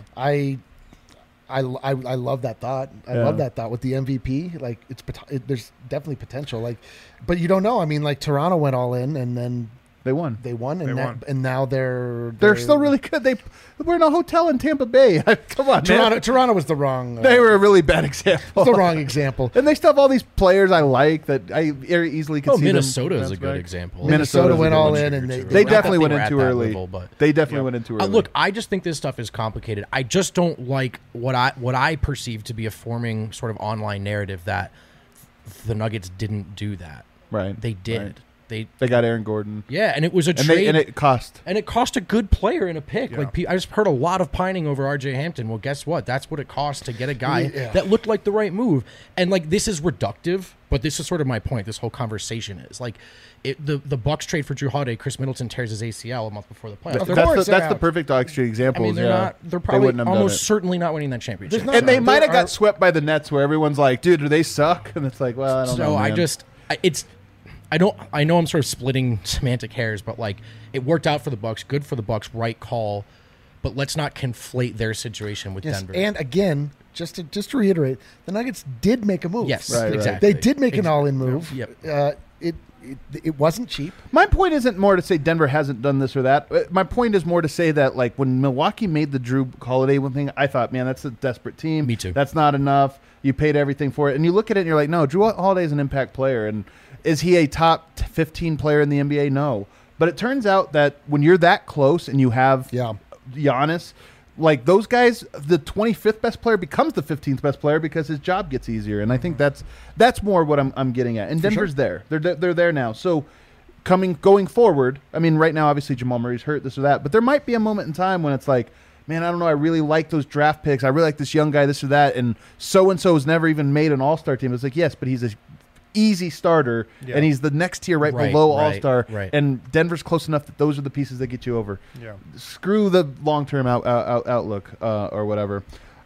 love that thought. I love that thought with the MVP. Like there's definitely potential. Like, but you don't know. I mean, like Toronto went all in and then. They won, and now they're still really good. We're in a hotel in Tampa Bay. Come on, Toronto was the wrong. They were a really bad example. The wrong example. And they still have all these players I like that I very easily could see. Minnesota is a good example. Minnesota went all in, and they definitely went in too early. They definitely went in too early. Look, I just think this stuff is complicated. I just don't like what I perceive to be a forming sort of online narrative that the Nuggets didn't do that. Right. They did. Right. They got Aaron Gordon. Yeah, and it was a trade. And it cost. And it cost a good player in a pick. Yeah. Like I just heard a lot of pining over R.J. Hampton. Well, guess what? That's what it cost to get a guy that looked like the right move. And like this is reductive, but this is sort of my point. This whole conversation is like the Bucks trade for Drew Holiday. Chris Middleton tears his ACL a month before the playoffs. That's the perfect dog street example. I mean, they're probably almost certainly not winning that championship. And they might have got swept by the Nets, where everyone's like, "Dude, do they suck?" And it's like, well, I don't know. So I know I'm sort of splitting semantic hairs, but like it worked out for the Bucks, good for the Bucks, right call. But let's not conflate their situation with Denver. And again, just to reiterate, the Nuggets did make a move. Yes, exactly. They did make an all-in move. Yep. It wasn't cheap. My point isn't more to say Denver hasn't done this or that. My point is more to say that like when Milwaukee made the Drew Holiday one thing, I thought, man, that's a desperate team. Me too. That's not enough. You paid everything for it, and you look at it and you're like, no, Drew Holiday is an impact player, and is he a top 15 player in the NBA? No. But it turns out that when you're that close and you have Giannis, like those guys, the 25th best player becomes the 15th best player because his job gets easier. And I think that's more what I'm getting at. And Denver's there. They're there now. So going forward, I mean, right now, obviously Jamal Murray's hurt, this or that. But there might be a moment in time when it's like, man, I don't know, I really like those draft picks. I really like this young guy, this or that. And so-and-so has never even made an all-star team. It's like, yes, but he's a easy starter, and he's the next tier right below All-Star, and Denver's close enough that those are the pieces that get you over. Yeah. Screw the long-term outlook or whatever.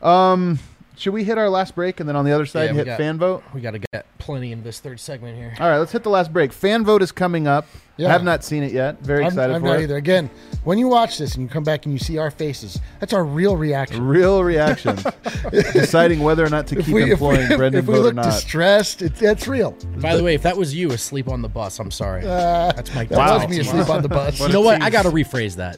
Should we hit our last break and then on the other side hit fan vote? We got to get plenty in this third segment here. All right, let's hit the last break. Fan vote is coming up. Yeah. I have not seen it yet. Very excited for it. I'm not either. Again, when you watch this and you come back and you see our faces, that's our real reaction. Real reaction. Deciding whether or not to keep employing Brendan Vogt or not. If we look distressed, that's real. By the way, if that was you asleep on the bus, I'm sorry. That's my That was me asleep on the bus. You know what? I got to rephrase that.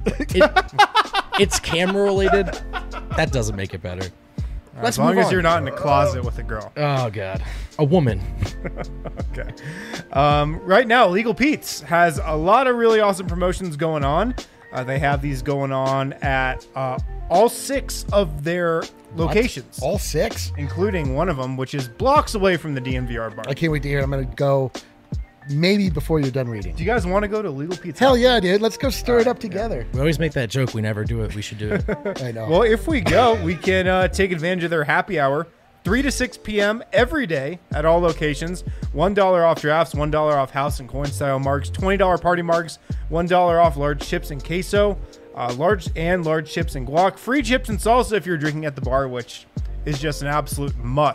It's camera related. That doesn't make it better. As long as you're not in a closet with a girl. Oh, God. A woman. Okay. Right now, Legal Pete's has a lot of really awesome promotions going on. They have these going on at all 6 of their locations. All 6? Including one of them, which is blocks away from the DNVR bar. I can't wait to hear it. I'm going to go maybe before you're done reading. Do you guys want to go to Legal Pete's? Hell yeah, dude. Let's go stir it up together. We always make that joke. We never do it. We should do it. I know. Well, if we go, we can take advantage of their happy hour. 3 to 6 p.m. every day at all locations. $1 off drafts, $1 off house and coin style marks, $20 party marks, $1 off large chips and queso, large chips and guac, free chips and salsa if you're drinking at the bar, which is just an absolute must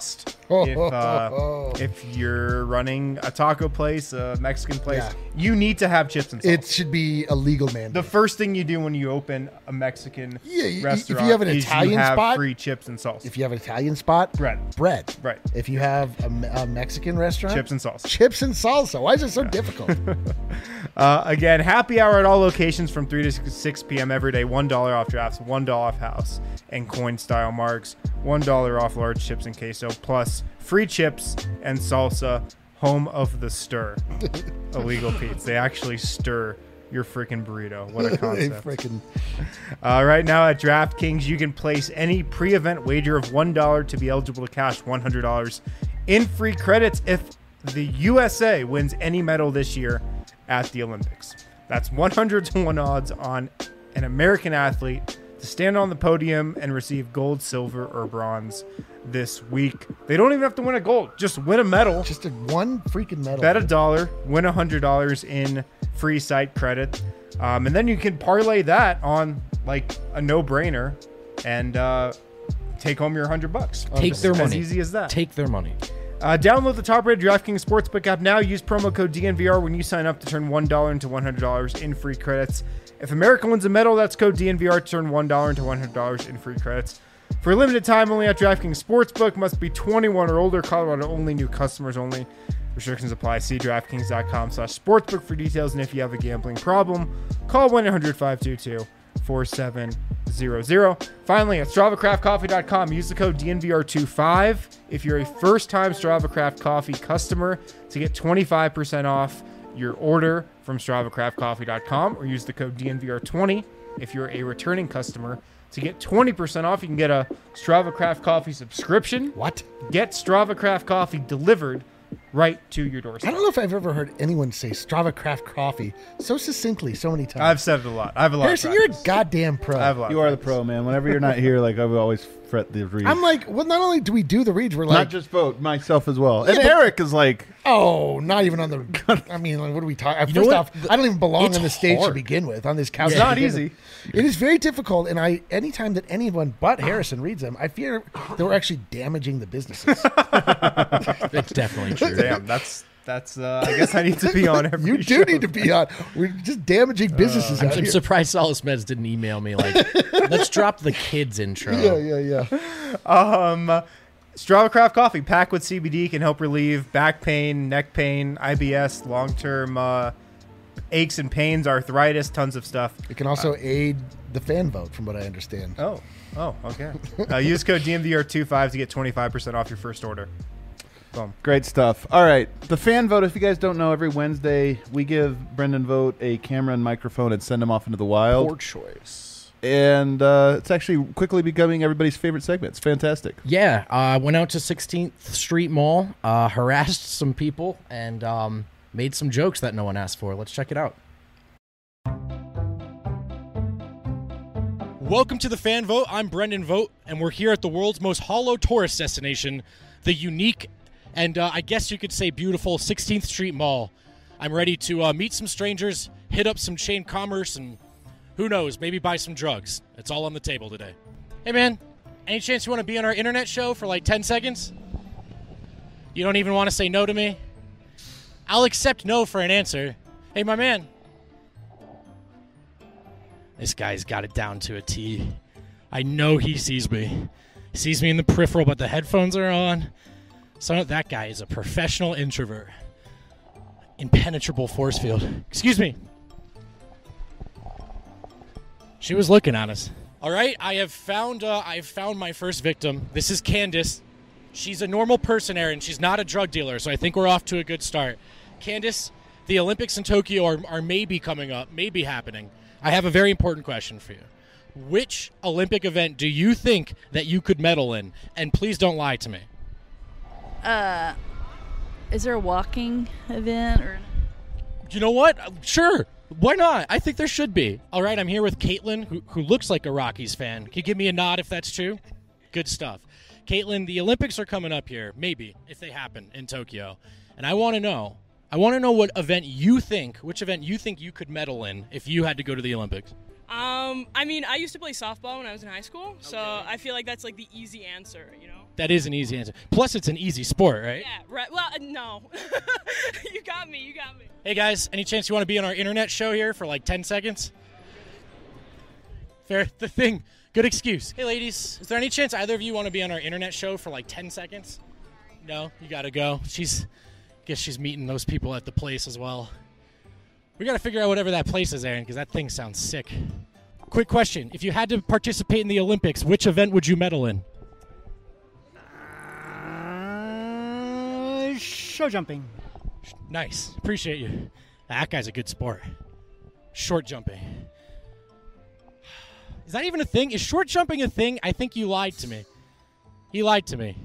if you're running a taco place, a Mexican place, Yeah. you need to have chips and salsa. It should be a legal mandate. The first thing you do when you open a Mexican restaurant if you have an is Italian you have spot, free chips and salsa. if you have an Italian spot, Bread. Right. If you have a Mexican restaurant, Chips and salsa. Chips and salsa. Why is it so difficult? Again, happy hour at all locations from 3 to 6 p.m. every day. $1 off drafts, $1 off house and coin style marks, $1 off large chips and queso, plus free chips and salsa. Home of the stir. Illegal Pete's. They actually stir your freaking burrito. What a They concept. freaking Right now at DraftKings, you can place any pre-event wager of $1 to be eligible to cash $100 in free credits if the USA wins any medal this year at the Olympics. That's 100 to 1 odds on an American athlete to stand on the podium and receive gold, silver, or bronze this week. They don't even have to win a gold. Just win a medal. just one freaking medal. Bet $1, win $100 in free site credit, and then you can parlay that on like a no-brainer and take home your $100. Take their money. As easy as that. Take their money. Download the top-rated DraftKings Sportsbook app now. Use promo code DNVR when you sign up to turn $1 into $100 in free credits. If America wins a medal, that's code DNVR to turn $1 into $100 in free credits. For a limited time only at DraftKings Sportsbook, must be 21 or older. Colorado only. New customers only. Restrictions apply. See DraftKings.com/sportsbook for details. And if you have a gambling problem, call 1-800-522-4700. Finally, at StravaCraftCoffee.com, use the code DNVR25 if you're a first-time Strava Craft Coffee customer to get 25% off your order from StravaCraftCoffee.com, or use the code DNVR20 if you're a returning customer to get 20% off. You can get a Strava Craft Coffee subscription. What? Get Strava Craft Coffee delivered right to your I doorstep. don't know if I've ever heard anyone say Strava Craft Coffee so succinctly so many times. I've said it a lot. I have a lot Harrison, of you're a practice. goddamn pro. I have a lot You of are the practice. pro, man. Whenever you're not here, like I would always fret the read. I'm like, well, not only do we do the reads, we're not like, just vote, myself as well. And but- Eric is like, oh, not even on the. I mean, like, what are we talking? know First what? off, I don't even belong It's on the stage to hard. begin with. On this couch, It's to not begin easy. with. It is very difficult, and anytime that anyone but Harrison reads them, I fear that we're actually damaging the businesses. It's definitely true. Damn, that's. I guess I need to be on every. You do show. need to be on. We're just damaging businesses out I'm here. surprised Solace Meds didn't email me like, let's drop the kids intro. Yeah. Strava Craft Coffee, packed with CBD, can help relieve back pain, neck pain, IBS, long-term aches and pains, arthritis, tons of stuff. It can also aid the fan vote, from what I understand. Oh, okay. Use code DNVR25 to get 25% off your first order. Boom. great stuff. All right. The fan vote, if you guys don't know, every Wednesday we give Brendan Vogt a camera and microphone and send him off into the wild. Poor choice. And it's actually quickly becoming everybody's favorite segment. It's fantastic. Yeah, I went out to 16th Street Mall, harassed some people, and made some jokes that no one asked for. Let's check it out. Welcome to the Fan Vote. I'm Brendan Vogt, and we're here at the world's most hollow tourist destination, the unique and I guess you could say beautiful 16th Street Mall. I'm ready to meet some strangers, hit up some chain commerce, and who knows, maybe buy some drugs. It's all on the table today. Hey, man, any chance you want to be on our internet show for like 10 seconds? You don't even want to say no to me? I'll accept no for an answer. Hey, my man. This guy's got it down to a T. I know he sees me. He sees me in the peripheral, but the headphones are on. So that guy is a professional introvert. Impenetrable force field. Excuse me. She was looking at us. All right, I have found my first victim. This is Candace. She's a normal person, Aaron. She's not a drug dealer, so I think we're off to a good start. Candace, the Olympics in Tokyo are maybe coming up, maybe happening. I have a very important question for you. Which Olympic event do you think that you could medal in? And please don't lie to me. Is there a walking event or? You know what? Sure. Why not? I think there should be. All right, I'm here with Caitlin, who looks like a Rockies fan. Can you give me a nod if that's true? Good stuff. Caitlin, the Olympics are coming up here, maybe, if they happen, in Tokyo. And I want to know which event you think you could medal in if you had to go to the Olympics. I mean, I used to play softball when I was in high school, so I feel like that's like the easy answer, you know? That is an easy answer. Plus, it's an easy sport, right? Yeah, right. Well, no. You got me. Hey, guys, any chance you want to be on our internet show here for like 10 seconds? Fair. The thing. Good excuse. Hey, ladies, is there any chance either of you want to be on our internet show for like 10 seconds? No? You got to go. Guess she's meeting those people at the place as well. We got to figure out whatever that place is, Aaron, because that thing sounds sick. Quick question. If you had to participate in the Olympics, which event would you medal in? Show jumping. Nice. Appreciate you. That guy's a good sport. Short jumping. Is that even a thing? Is short jumping a thing? I think you lied to me. He lied to me.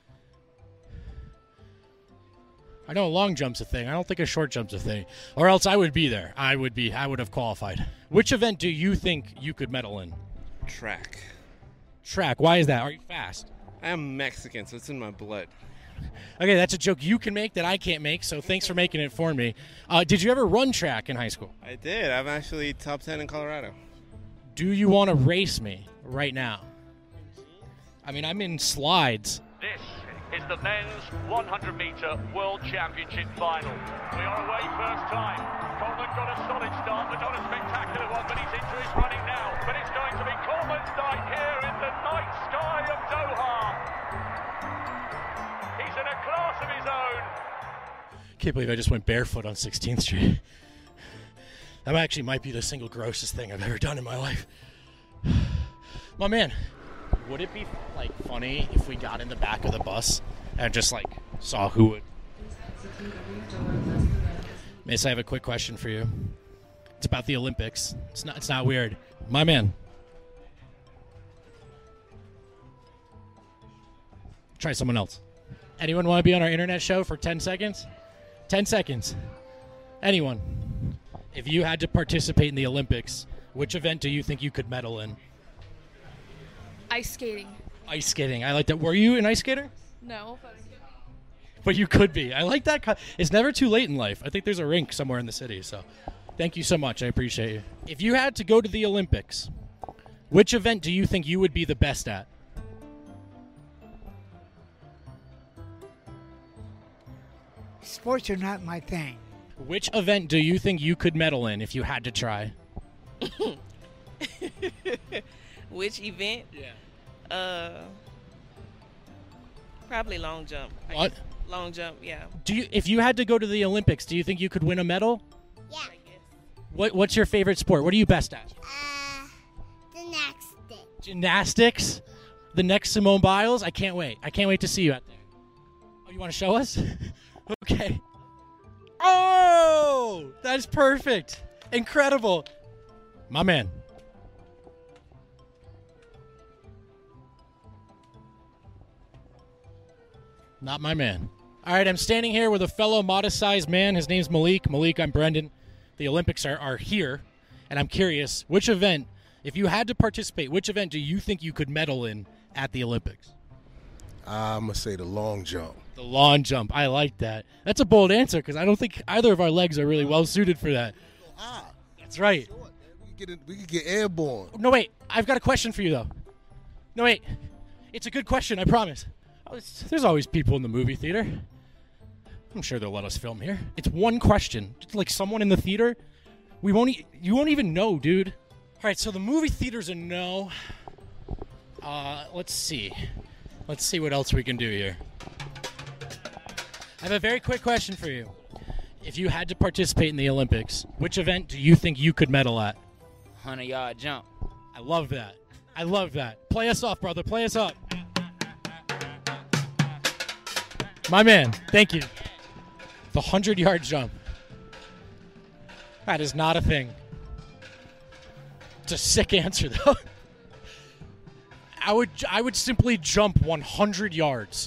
I know a long jump's a thing. I don't think a short jump's a thing. Or else I would be there. I would have qualified. Which event do you think you could medal in? Track. Track. Why is that? Are you fast? I am Mexican, so it's in my blood. Okay, that's a joke you can make that I can't make, so thanks for making it for me. Did you ever run track in high school? I did. I'm actually top 10 in Colorado. Do you want to race me right now? I mean, I'm in slides. This is the men's 100-meter World Championship final. We are away first time. Coleman got a solid start, but not a spectacular one, but he's into his running now. But it's going to be Coleman's night here in the night sky of Doha. He's in a class of his own. Can't believe I just went barefoot on 16th Street. That actually might be the single grossest thing I've ever done in my life. My man, would it be like funny if we got in the back of the bus and just like saw who would? Mace, I have a quick question for you. It's about the Olympics. It's not weird. My man. Try someone else. Anyone want to be on our internet show for 10 seconds? 10 seconds. Anyone. If you had to participate in the Olympics, which event do you think you could medal in? Ice skating. Ice skating. I like that. Were you an ice skater? No. But you could be. I like that. It's never too late in life. I think there's a rink somewhere in the city. So thank you so much. I appreciate you. If you had to go to the Olympics, which event do you think you would be the best at? Sports are not my thing. Which event do you think you could medal in if you had to try? Which event? Yeah. Probably long jump. What? Long jump, yeah. If you had to go to the Olympics, do you think you could win a medal? Yeah. What's your favorite sport? What are you best at? Gymnastics. Gymnastics? The next Simone Biles? I can't wait. I can't wait to see you out there. Oh, you want to show us? Okay. Oh, that's perfect. Incredible. My man. Not my man. All right, I'm standing here with a fellow modest-sized man. His name's Malik. Malik, I'm Brendan. The Olympics are here, and I'm curious, which event, if you had to participate, which event do you think you could medal in at the Olympics? I'm going to say the long jump. The long jump. I like that. That's a bold answer because I don't think either of our legs are really well suited for that. That's right. We could get airborne. No, wait. I've got a question for you, though. No, wait. It's a good question, I promise. There's always people in the movie theater. I'm sure they'll let us film here. It's one question. It's like someone in the theater. You won't even know, dude. All right, so the movie theater's a no. Let's see. Let's see what else we can do here. I have a very quick question for you. If you had to participate in the Olympics, which event do you think you could medal at? 100-yard jump. I love that. I love that. Play us off, brother. Play us up. My man, thank you. The 100-yard jump. That is not a thing. It's a sick answer, though. I would simply jump 100 yards.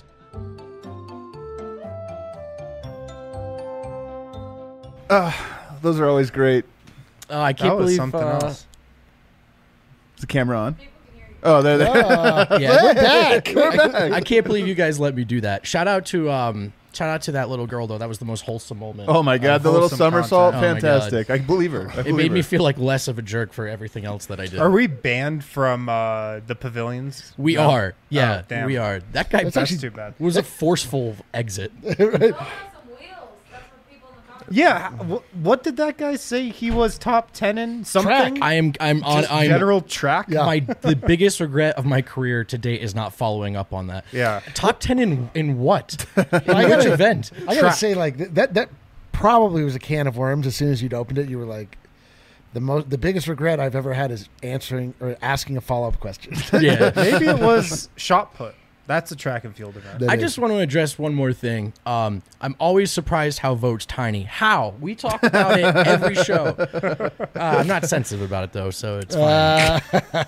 Those are always great. Oh, I can't believe something else. Is the camera on? Oh, there. Yeah, we're back. We're back. I can't believe you guys let me do that. Shout out to Shout out to that little girl though. That was the most wholesome moment. Oh my god, the little wholesome somersault, content. fantastic! I believe her. It made me feel like less of a jerk for everything else that I did. Are we banned from the pavilions? We No? are. Yeah, Oh, damn. we are. That guy That's too bad. was a forceful exit. Yeah, what did that guy say? He was top 10 in something. I'm Just general track. The biggest regret of my career to date is not following up on that. Yeah, top 10 in what? In I which gotta- event? I gotta say, like that probably was a can of worms. As soon as you'd opened it, you were like, the biggest regret I've ever had is answering or asking a follow up question. Yeah, maybe it was shot put. That's a track and field event. I just want to address one more thing. I'm always surprised how votes tiny. How? We talk about it every show. I'm not sensitive about it though, so it's fine.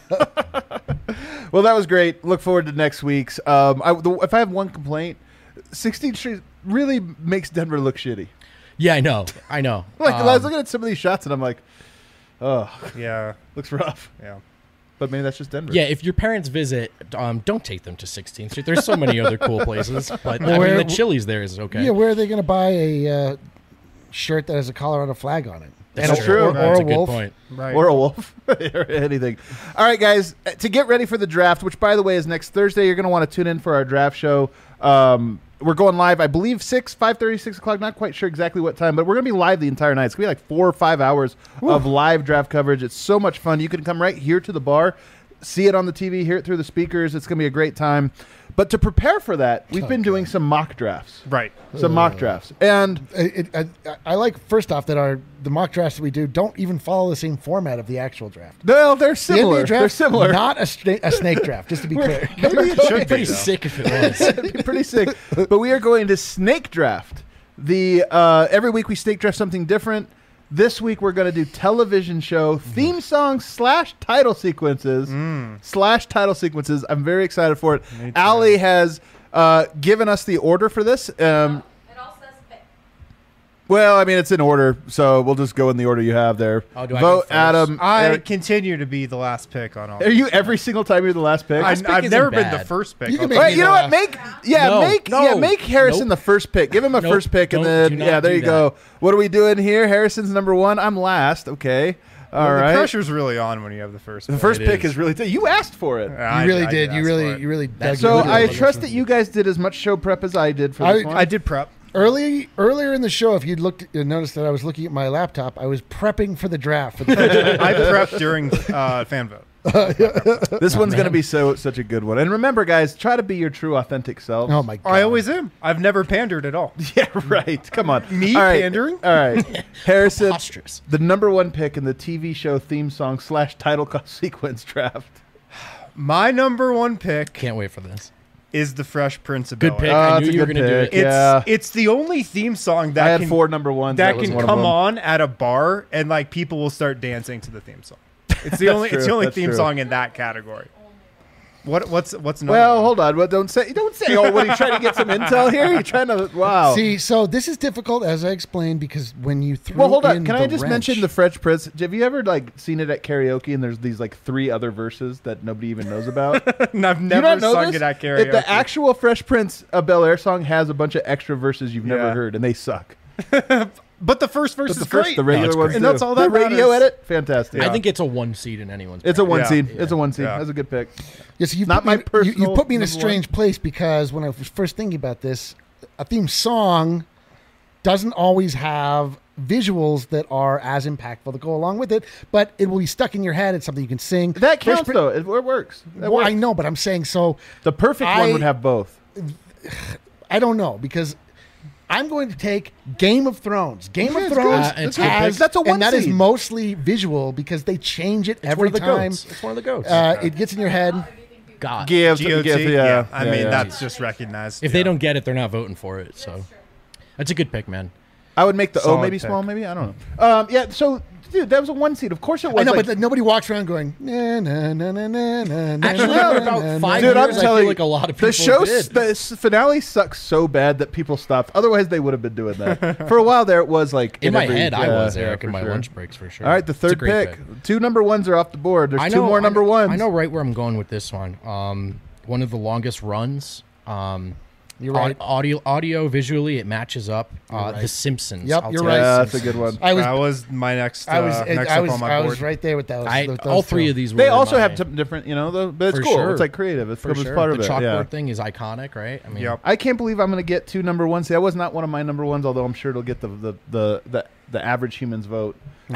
Well, that was great. Look forward to next week's. If I have one complaint, 16th Street really makes Denver look shitty. Yeah, I know. Like I was looking at some of these shots and I'm like, oh, yeah, looks rough. Yeah. But maybe that's just Denver. Yeah, if your parents visit, don't take them to 16th Street. There's so many other cool places. But Well, I mean, the Chili's there is okay. Yeah, where are they going to buy a shirt that has a Colorado flag on it? That's true. Or That's a a good wolf. point. Right. Or a wolf. Or anything. All right, guys. To get ready for the draft, which, by the way, is next Thursday, you're going to want to tune in for our draft show. We're going live, I believe, 5:30, 6 o'clock. Not quite sure exactly what time, but we're going to be live the entire night. It's going to be like 4 or 5 hours of live draft coverage. It's so much fun. You can come right here to the bar, see it on the TV, hear it through the speakers. It's going to be a great time. But to prepare for that, we've been doing some mock drafts. Right. Some mock drafts. And I like, first off, that the mock drafts that we do don't even follow the same format of the actual draft. no, they're The similar. NBA draft, They're similar. not a snake draft, just to be clear. Maybe it should be Pretty though. sick if it was. It'd be pretty sick. But we are going to snake draft. Every week we snake draft something different. This week we're going to do television show theme songs / title sequences / title sequences. I'm very excited for it. Me too. Allie has given us the order for this. It all says pick. Well, I mean, it's in order, so we'll just go in the order you have there. Oh, do I go Vote, first? Adam. I Eric. continue to be the last pick on all. Are you every single time you're the last pick? Last pick I've isn't never been bad. the first pick. You can I'll make tell Wait, you know what? No, Make Harrison Nope. the first pick. Give him a Nope. first pick, and Don't- then do not there do you go. that. What are we doing here? Harrison's number 1. I'm last. Okay, all Well, right. The pressure's really on when you have the first. The pick. first It pick is. is really. You asked for it. I You really I did. ask You for it. really dug So your heels I in. trust that you guys did as much show prep as I did for this one. I did prep. Earlier in the show, if you'd noticed that I was looking at my laptop, I was prepping for the draft. For the first time. I prepped during fan vote. This one's going to be such a good one. And remember, guys, try to be your true, authentic selves. Oh my god! I always am. I've never pandered at all. Yeah, right. Come on. Me All right. pandering? All right. Harrison, Preposterous. the number 1 pick in the TV show theme song / title sequence draft. My number 1 pick Can't wait for this. is the Fresh Prince of Good Bel-Air. pick. I it's knew a you were good going to do pick. it. Yeah. It's the only theme song that I had can, 4 number 1s. that was can one of come them. on at a bar and like people will start dancing to the theme song. It's the only true. it's the only That's theme true. song in that category. What's another Well, one? hold on. Well, don't say. Oh, what are you trying to get some intel here? You're trying to. Wow. See, so this is difficult, as I explained, because when you threw Well, hold on. in Can the I just wrench- mention the Fresh Prince? Have you ever seen it at karaoke and there's these 3 other verses that nobody even knows about? And I've You never don't know sung this? it at karaoke. The actual Fresh Prince of Bel-Air song has a bunch of extra verses you've never Yeah. heard, and they suck. but the first verse But is the great. the regular it's ones great. And too. that's all the that radio matters. edit, fantastic. I think it's a 1 seed in anyone's. it's a bracket. 1 Yeah. seed. It's a 1 seed. Yeah. That's a good pick. Yes, you've Not put my me, personal you put me in a number strange place because when I was first thinking about this, a theme song doesn't always have visuals that are as impactful that go along with it, but it will be stuck in your head. It's something you can sing. That Fresh counts Prin- though. It works. That Well, I works. know, but I'm saying so. The perfect one would have both. I don't know because I'm going to take Game of Thrones. Game Okay, of it's Thrones good. It's a good has, pick. That's a 1 and that is seed. mostly visual because they change it It's every one of the time. goats. It's one of the goats. It gets in your head. God. Give, GOT, yeah. I Yeah, mean, yeah. that's just recognized. If they don't get it, they're not voting for it. So that's a good pick, man. I would make the O Solid maybe pick. small, maybe I don't know. Yeah. So, dude, that was a 1 seed. Of course it was. I know, like- but nobody walks around going na na na na na na. Actually, na, for na, about na, 5 Dude, years, I'm I feel telling you, like a lot of people the show, did. the finale sucks so bad that people stopped. Otherwise, they would have been doing that. For a while there, it was like In my every- head, I yeah, was, yeah, Eric, for in my sure. lunch breaks for sure. All right, the It's a third great pick. 2 number 1s are off the board. There's I 2 know, more number 1s. I know right where I'm going with this one. One of the longest runs. You're right. Audio, visually, it matches up. right. The Simpsons. Yep, I'll you're take right. The Yeah, that's a Simpsons. good one. That was my next. Next up on my I board. was right there with those. All three of these. They were also my- have some different, but it's For cool. sure. It's like creative. It's For sure. part of The it. chalkboard Yeah. thing is iconic, right? I mean, Yep. I can't believe I'm going to get 2 number ones. See, that was not one of my number ones, although I'm sure it'll get the average human's vote.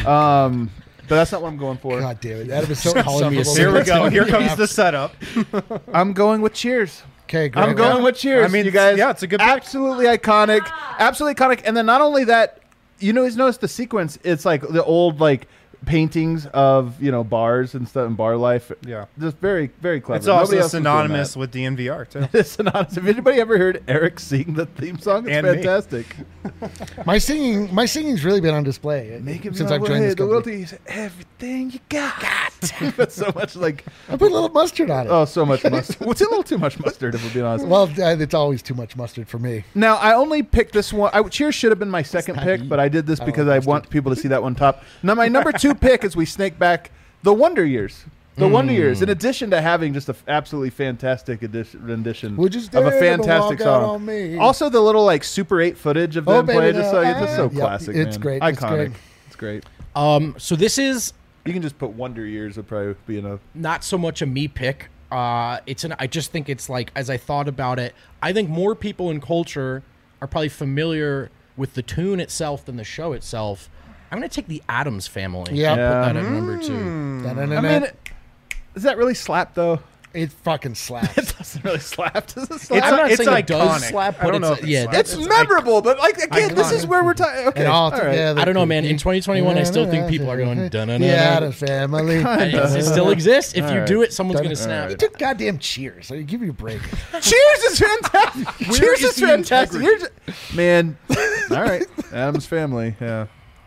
But that's not what I'm going for. God damn it! That was so Calling me a insufferable. Here we go. Here comes the setup. I'm going with Cheers. Okay, Greg. I'm going with Cheers. I mean, you guys. yeah, it's a good pick. Absolutely iconic. Absolutely iconic. And then not only that, he's noticed the sequence. It's like the old paintings of bars and stuff and bar life. Yeah, just very very clever. It's also Nobody else was doing synonymous that. with DNVR too. It's synonymous. Have anybody ever heard Eric sing the theme song? It's And me. fantastic. My singing's really been on display since I've joined this the world company. is everything you got. But so much I put a little mustard on it. oh, so much mustard. It's a little too much mustard, if we're being honest. Well, it's always too much mustard for me. Now, I only picked this one. Cheers should have been my second pick, but I did this because I want people to see that one top. Now, my number 2 pick is we snake back the Wonder Years. The Wonder Years, in addition to having just an absolutely fantastic rendition Would you of a dare to fantastic walk out song. on me? Also, the little Super 8 footage of them baby, playing. It's now, just so yep, classic. it's man. great, it's Iconic. great. It's great. So this is You can just put Wonder Years would probably be enough. not so much a me pick. I just think it's as I thought about it, I think more people in culture are probably familiar with the tune itself than the show itself. I'm going to take the Addams Family. Yep. Put that at number 2. I mean, does that really slap though? It fucking slaps. It doesn't really slap. Does it slap? I'm not it's saying it does iconic. slap, I but don't know it's if it yeah, slaps. It's memorable, but again, this is where we're talking. Okay, And all right. together. I don't know, man. In 2021, I still think people are going dun-dun-dun-dun. The Addams Family. It still exists. If All you right. do it, someone's going to snap. You took goddamn Cheers. So give me a break. Cheers is fantastic. Cheers is is the fantastic. integrity? Man, all right. Addams Family. Yeah.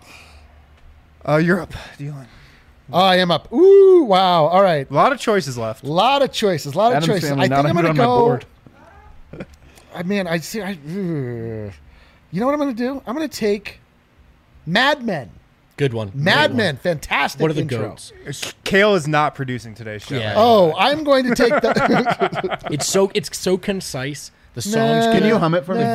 You're up, Dylan. Oh, I am up. Ooh, wow. All right. A lot of choices left. A lot of choices. Addams I Family, think not I'm even going to on my go. board. I see. You know what I'm going to do? I'm going to take Mad Men. Good one. Mad Great Men. one. Fantastic What are the intro. goats? Kale is not producing today's show. Yeah. Oh, I'm going to take the. It's so concise. The songs. Can you hum it for me?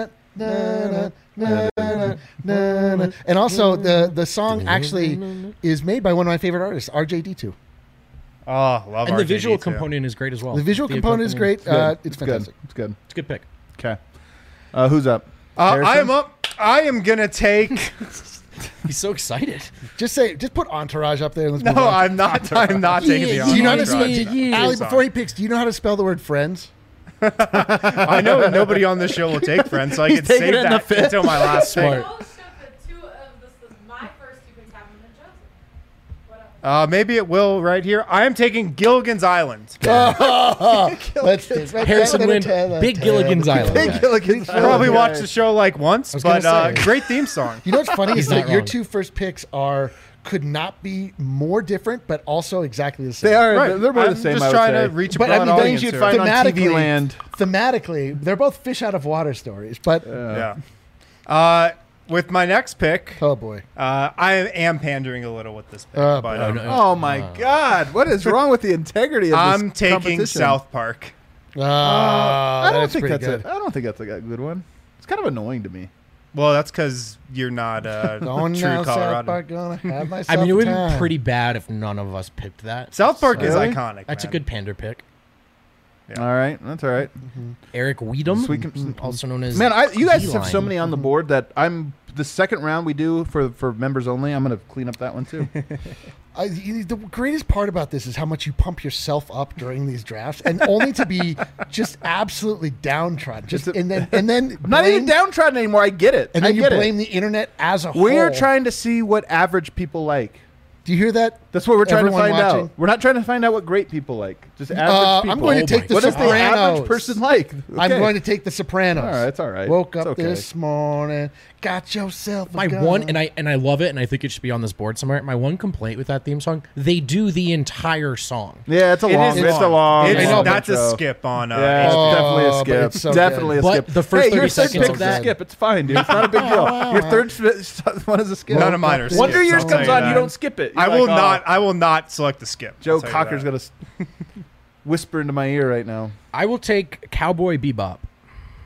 And also, the song actually is made by one of my favorite artists, RJD2. Oh, love And the RJD visual too. component is great as well. The visual component is great. It's good. fantastic. It's good. It's a good pick. Okay. Who's up? I am up. I am gonna take. He's so excited. Just put Entourage up there. And let's No, move on. I'm not. I'm not taking the. Do you know how to spell? Entourage Ali, song. before he picks, do you know how to spell the word friends? I know that nobody on this show will take Friends, so I He's can taking save it in the that fifth. until my last pick. Smart. My first two picks haven't been chosen. What else? Maybe it will right here. I am taking Gilligan's Island. Let's Harrison Wind, Big Gilligan's Island. Big guy. Gilligan's I probably Island. watched the show like once, was but gonna say. great theme song. You know what's funny He's is that not your wrong. two first picks could not be more different, but also exactly the same. They are. Right. They're more I'm the same. just I would trying say. to reach a But broad I mean, audience things you'd here. find on TV Thematically- Land. Thematically, they're both fish out of water stories. But Yeah. With my next pick, oh boy, I am pandering a little with this pick, Oh, but boy. no. Oh my God! What is wrong with the integrity of I'm this taking competition? South Park. I don't that's think pretty that's good. I don't think that's a good one. It's kind of annoying to me. Well, that's because you're not Going true now, South Colorado. Park, gonna have myself I mean, it would a be time. pretty bad if none of us picked that. South Park is Really? iconic. That's a man. good pander pick. Yeah. All right, that's all right. Eric Weedham, Sweet- also known as Man, you guys have D-Line. so many on the board that I'm the second round we do for members only. I'm gonna clean up that one too. The greatest part about this is how much you pump yourself up during these drafts, and only to be just absolutely downtrodden. And then I'm not even downtrodden anymore. I get it. And I then you get blame it. the internet as a whole. We're trying to see what average people like. Do you hear that? That's what we're trying to Everyone find watching? out. We're not trying to find out what great people like. Just average people. I'm going to take The What does the Sopranos. average person like? I'm Okay. going to take The Sopranos. All right, it's all right. Woke It's up okay. this morning, got yourself a My gun. one, and I love it, and I think it should be on this board somewhere. My one complaint with that theme song: they do the entire song. Yeah, it's a It long. is It's a long. It's, I know, that's a intro. skip on. Yeah, it's definitely a but skip. it's so Definitely good. a But skip. the first hey, 30 your third seconds pick's of a that- skip. It's fine, dude. It's not a big deal. Your third one is a skip. None of mine are Wonder skips, Years I'll tell comes you on, that. you don't skip it. I You're will like, not. oh. I will not select the skip. Joe I'll tell you Cocker's that. gonna whisper into my ear right now. I will take Cowboy Bebop.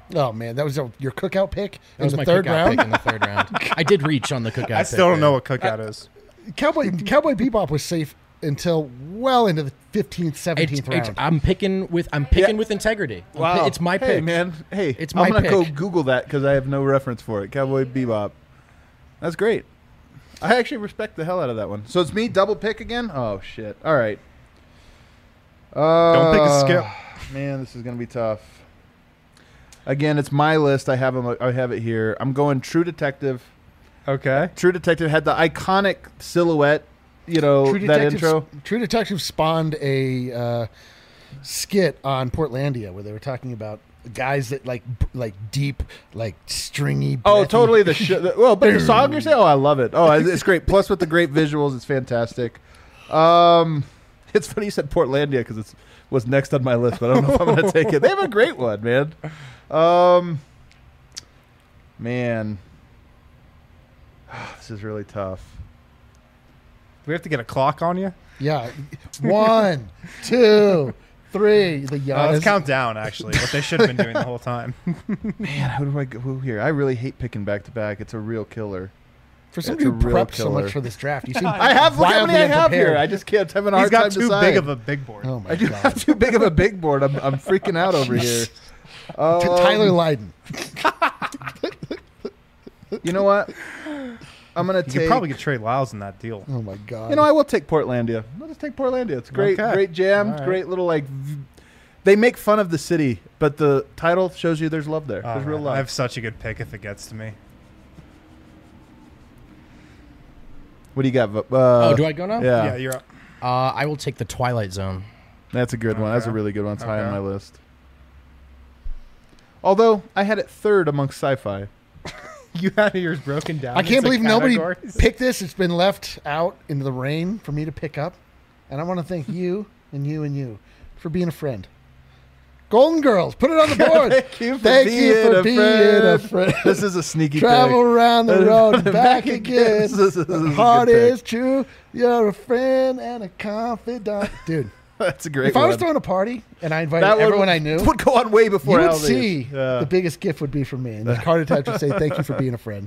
Oh man, that was your cookout pick That was in my the third cookout round. pick in the third round. I did reach on the cookout. I still don't know what cookout is. Cowboy Bebop was safe until well into the 15th, 17th round. I'm picking with integrity. Wow. It's my pick. Hey, man. Hey, it's my I'm going to go pick. Google that because I have no reference for it. Cowboy Bebop. That's great. I actually respect the hell out of that one. So it's me, double pick again? Oh, shit. All right. Don't pick a skip. Man, this is going to be tough. Again, it's my list. I have it here. I'm going True Detective. Okay. True Detective had the iconic silhouette, that intro. True Detective spawned a skit on Portlandia where they were talking about guys that like deep, like stringy. Oh, breathy- totally. But the song you're saying, I love it. Oh, it's great. Plus with the great visuals, it's fantastic. It's funny you said Portlandia because it was next on my list, but I don't know if I'm going to take it. They have a great one, man. Man, this is really tough. Do we have to get a clock on you? Yeah. 1, 2, 3. The let's count down, actually, what they should have been doing the whole time. Man, who do I go here? I really hate picking back-to-back. It's a real killer. For somebody who prepped so much for this draft, you seem I have. Look how many I have unprepared. here. I just can't have a hard time He's got too deciding. big of a big board. Oh my I do God. have too big of a big board. I'm freaking out over here. Tyler Lydon. You know what? I'm gonna You take. could probably get Trey Lyles in that deal. Oh my God. I will take Portlandia. I'll just take Portlandia. It's great, Okay. great jam. All right. Great little They make fun of the city, but the title shows you there's love there. Oh, There's real man. love. I have such a good pick if it gets to me. What do you got? Do I go now? Yeah, Yeah, you're up. I will take the Twilight Zone. that's a good one. That's a Okay. really good one. It's high on Okay. my list. Although I had it third amongst sci-fi. You had yours broken down. I can't into believe nobody categories? picked this. It's been left out into the rain for me to pick up. And I want to thank you and you and you for being a friend. Golden Girls, put it on the board. Thank you for being a friend. This is a sneaky Travel pick. around the road and back again. This is a The good heart pick. is true. You're a friend and a confidant. Dude, That's a great if one. I was throwing a party and I invited That one everyone I knew, would go on way before you would Aldi's. see Yeah. the biggest gift would be from me. And the heart attack would say, thank you for being a friend.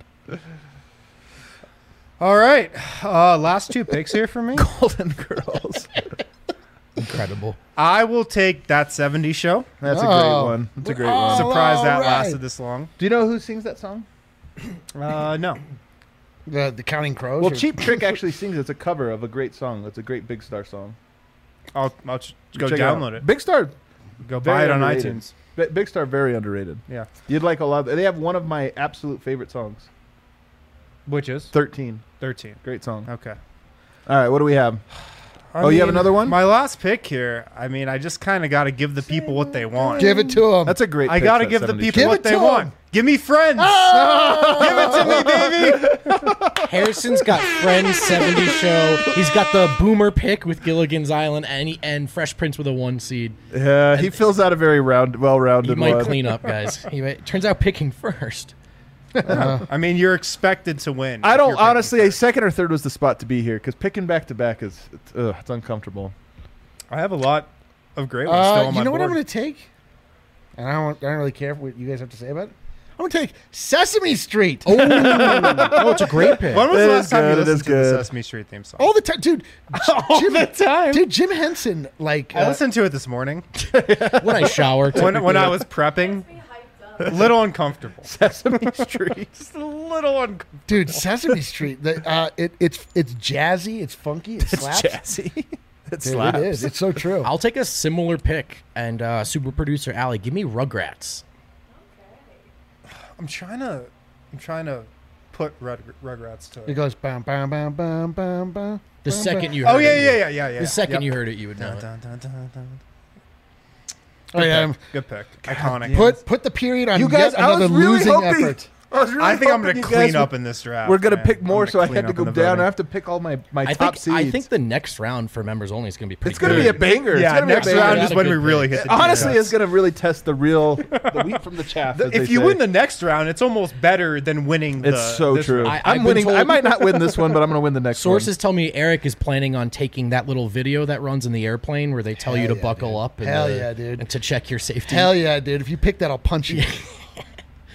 All right. Last two picks here for me. Golden Girls. Incredible. I will take That 70s Show. That's a great one. That's a great one. Surprised that all right. lasted this long. Do you know who sings that song? No. The Counting Crows? Well, or- Cheap Trick actually sings. It's a cover of a great song. It's a great Big Star song. I'll just go Check download it. Big Star. Go buy very it on underrated. iTunes. Big Star, very underrated. Yeah. You'd like a lot. They have one of my absolute favorite songs. Which is? 13. 13. Great song. Okay. All right, what do we have? I You have mean, another one? My last pick here. I mean, I just kind of got to give the people what they want. Give it to them. That's a great I pick, got to that give the 70s people show. what it they to 'em. want. Give me Friends. Give it to me, baby. Harrison's got Friends 70 show. He's got the Boomer pick with Gilligan's Island and Fresh Prince with a 1 seed. Yeah, he fills out a very well-rounded He might one. clean up, guys. Turns out picking first. I mean, you're expected to win. I if don't you're picking honestly. A first. second or third was the spot to be here because picking back to back is it's uncomfortable. I have a lot of great ones still on my you know board. what I'm going to take? And I don't really care what you guys have to say about it. I'm going to take Sesame Street. Oh, it's a great pick. When was It the is last time you good, it listened is to the good. Sesame Street theme song? All the time. Dude. All the time. Dude, Jim Henson, like... I listened to it this morning When I shower. when I was prepping. A little uncomfortable. Sesame Street. Just a little uncomfortable. Dude, Sesame Street. It's jazzy. It's funky. It slaps. Jazzy. It Dude, slaps. it is. It's so true. I'll take a similar pick. And super producer Allie, give me Rugrats. I'm trying to put Rugrats to It it. goes bam, bam, bam, bam, bam, bam. The bam, second bam. you heard Oh it. yeah. The second Yep. you heard it, you would know Dun, it. dun, dun, dun, dun. Oh, yeah. Good pick. Iconic. Put the period on You guys, yet I another was really losing hoping. effort. I think I'm going to clean up in this draft. We're gonna man. pick I'm more, gonna so I clean had to up go in the down. voting. I have to pick all my I top think seeds. I think the next round for members only is going to be pretty it's going to good. be a banger. Yeah, it's gonna next be a banger. round is That's a when we good really pick. hit the Honestly, deep it's going to really test the wheat from the chaff. as If they you say. win the next round, it's almost better than winning. It's so this true. round. I've I'm been winning. told- I might not win this one, but I'm going to win the next Sources tell me Eric is planning on taking that little video that runs in the airplane where they tell you to buckle up and, Hell yeah, dude. and to check your safety. Hell yeah, dude. If you pick that, I'll punch you.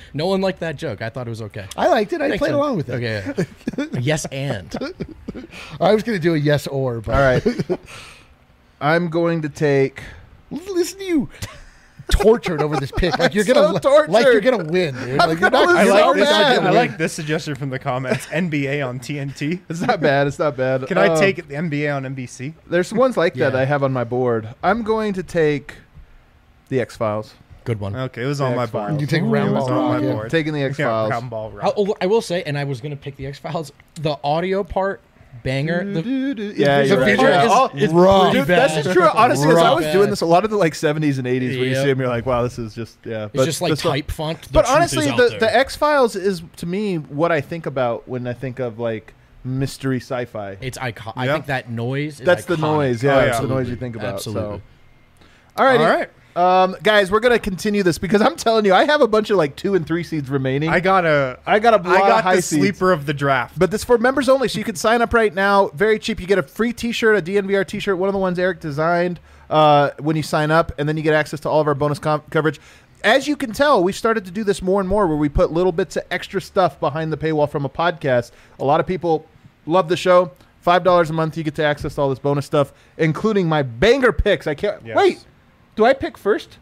No one liked that joke. I thought it was okay. I liked it. I Thanks, played man. along with it. Okay. Yeah. Yes, and. I was going to do a yes or, but All right. I'm going to take. listen to you tortured over this pick. Like you're So gonna tortured. like you're gonna win, dude. I'm Like you're gonna not. lose you're so not bad. gonna I win. like this suggestion from the comments. NBA on TNT. It's not bad. It's not bad. Can I take the NBA on NBC? There's ones like that Yeah. I have on my board. I'm going to take the X-Files. Good one. Okay, it was on my X-Files. board. You take It Round was Ball on Rock, my yeah. board. Taking the X-Files. Yeah, Round Ball Rock. I will say, and I was going to pick the X-Files, the audio part, banger. Yeah, the you're right. feature Yeah. is rough. pretty Dude, bad. that's just true. Honestly, as I was Rough. doing this, a lot of the like 70s and 80s, when you Yep. see them, you're like, wow, this is just, yeah. It's just like the stuff- type font. The But truth honestly, is out the there. X-Files is, to me, what I think about when I think of like mystery sci-fi. It's iconic. I Yeah. think that noise is That's the iconic. noise. Yeah, Oh, it's yeah. the noise you think about. Absolutely. So. All right. All right. Guys, we're gonna continue this because I'm telling you, I have a bunch of like 2 and 3 seeds remaining. I got a lot of high the seeds. sleeper of the draft. But this for members only, so you can sign up right now. Very cheap. You get a free T-shirt, a DNVR T-shirt, one of the ones Eric designed when you sign up, and then you get access to all of our bonus coverage. As you can tell, we've started to do this more and more, where we put little bits of extra stuff behind the paywall from a podcast. A lot of people love the show. $5 a month, you get to access all this bonus stuff, including my banger picks. I can't wait. Do I pick first?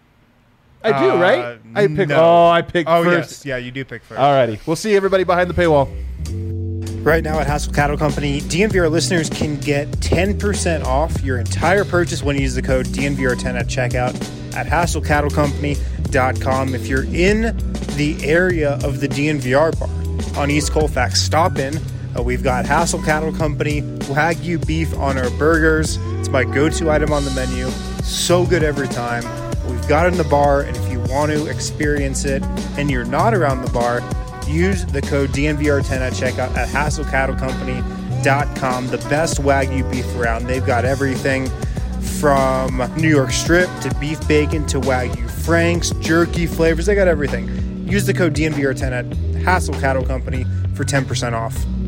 I do, right? I pick. no. Oh, I pick Oh, first. yes. Yeah, you do pick first. Alrighty. We'll see everybody behind the paywall. Right now at Hassel Cattle Company, DNVR listeners can get 10% off your entire purchase when you use the code DNVR10 at checkout at HassleCattleCompany.com. If you're in the area of the DNVR bar on East Colfax, stop in. We've got Hassel Cattle Company Wagyu beef on our burgers. It's my go-to item on the menu. So good every time. We've got it in the bar, and if you want to experience it and you're not around the bar, use the code DNVR10 at checkout at HassleCattleCompany.com. The best Wagyu beef around. They've got everything from New York strip to beef bacon to Wagyu Franks, jerky flavors. They got everything. Use the code DNVR10 at Hassel Cattle Company for 10% off.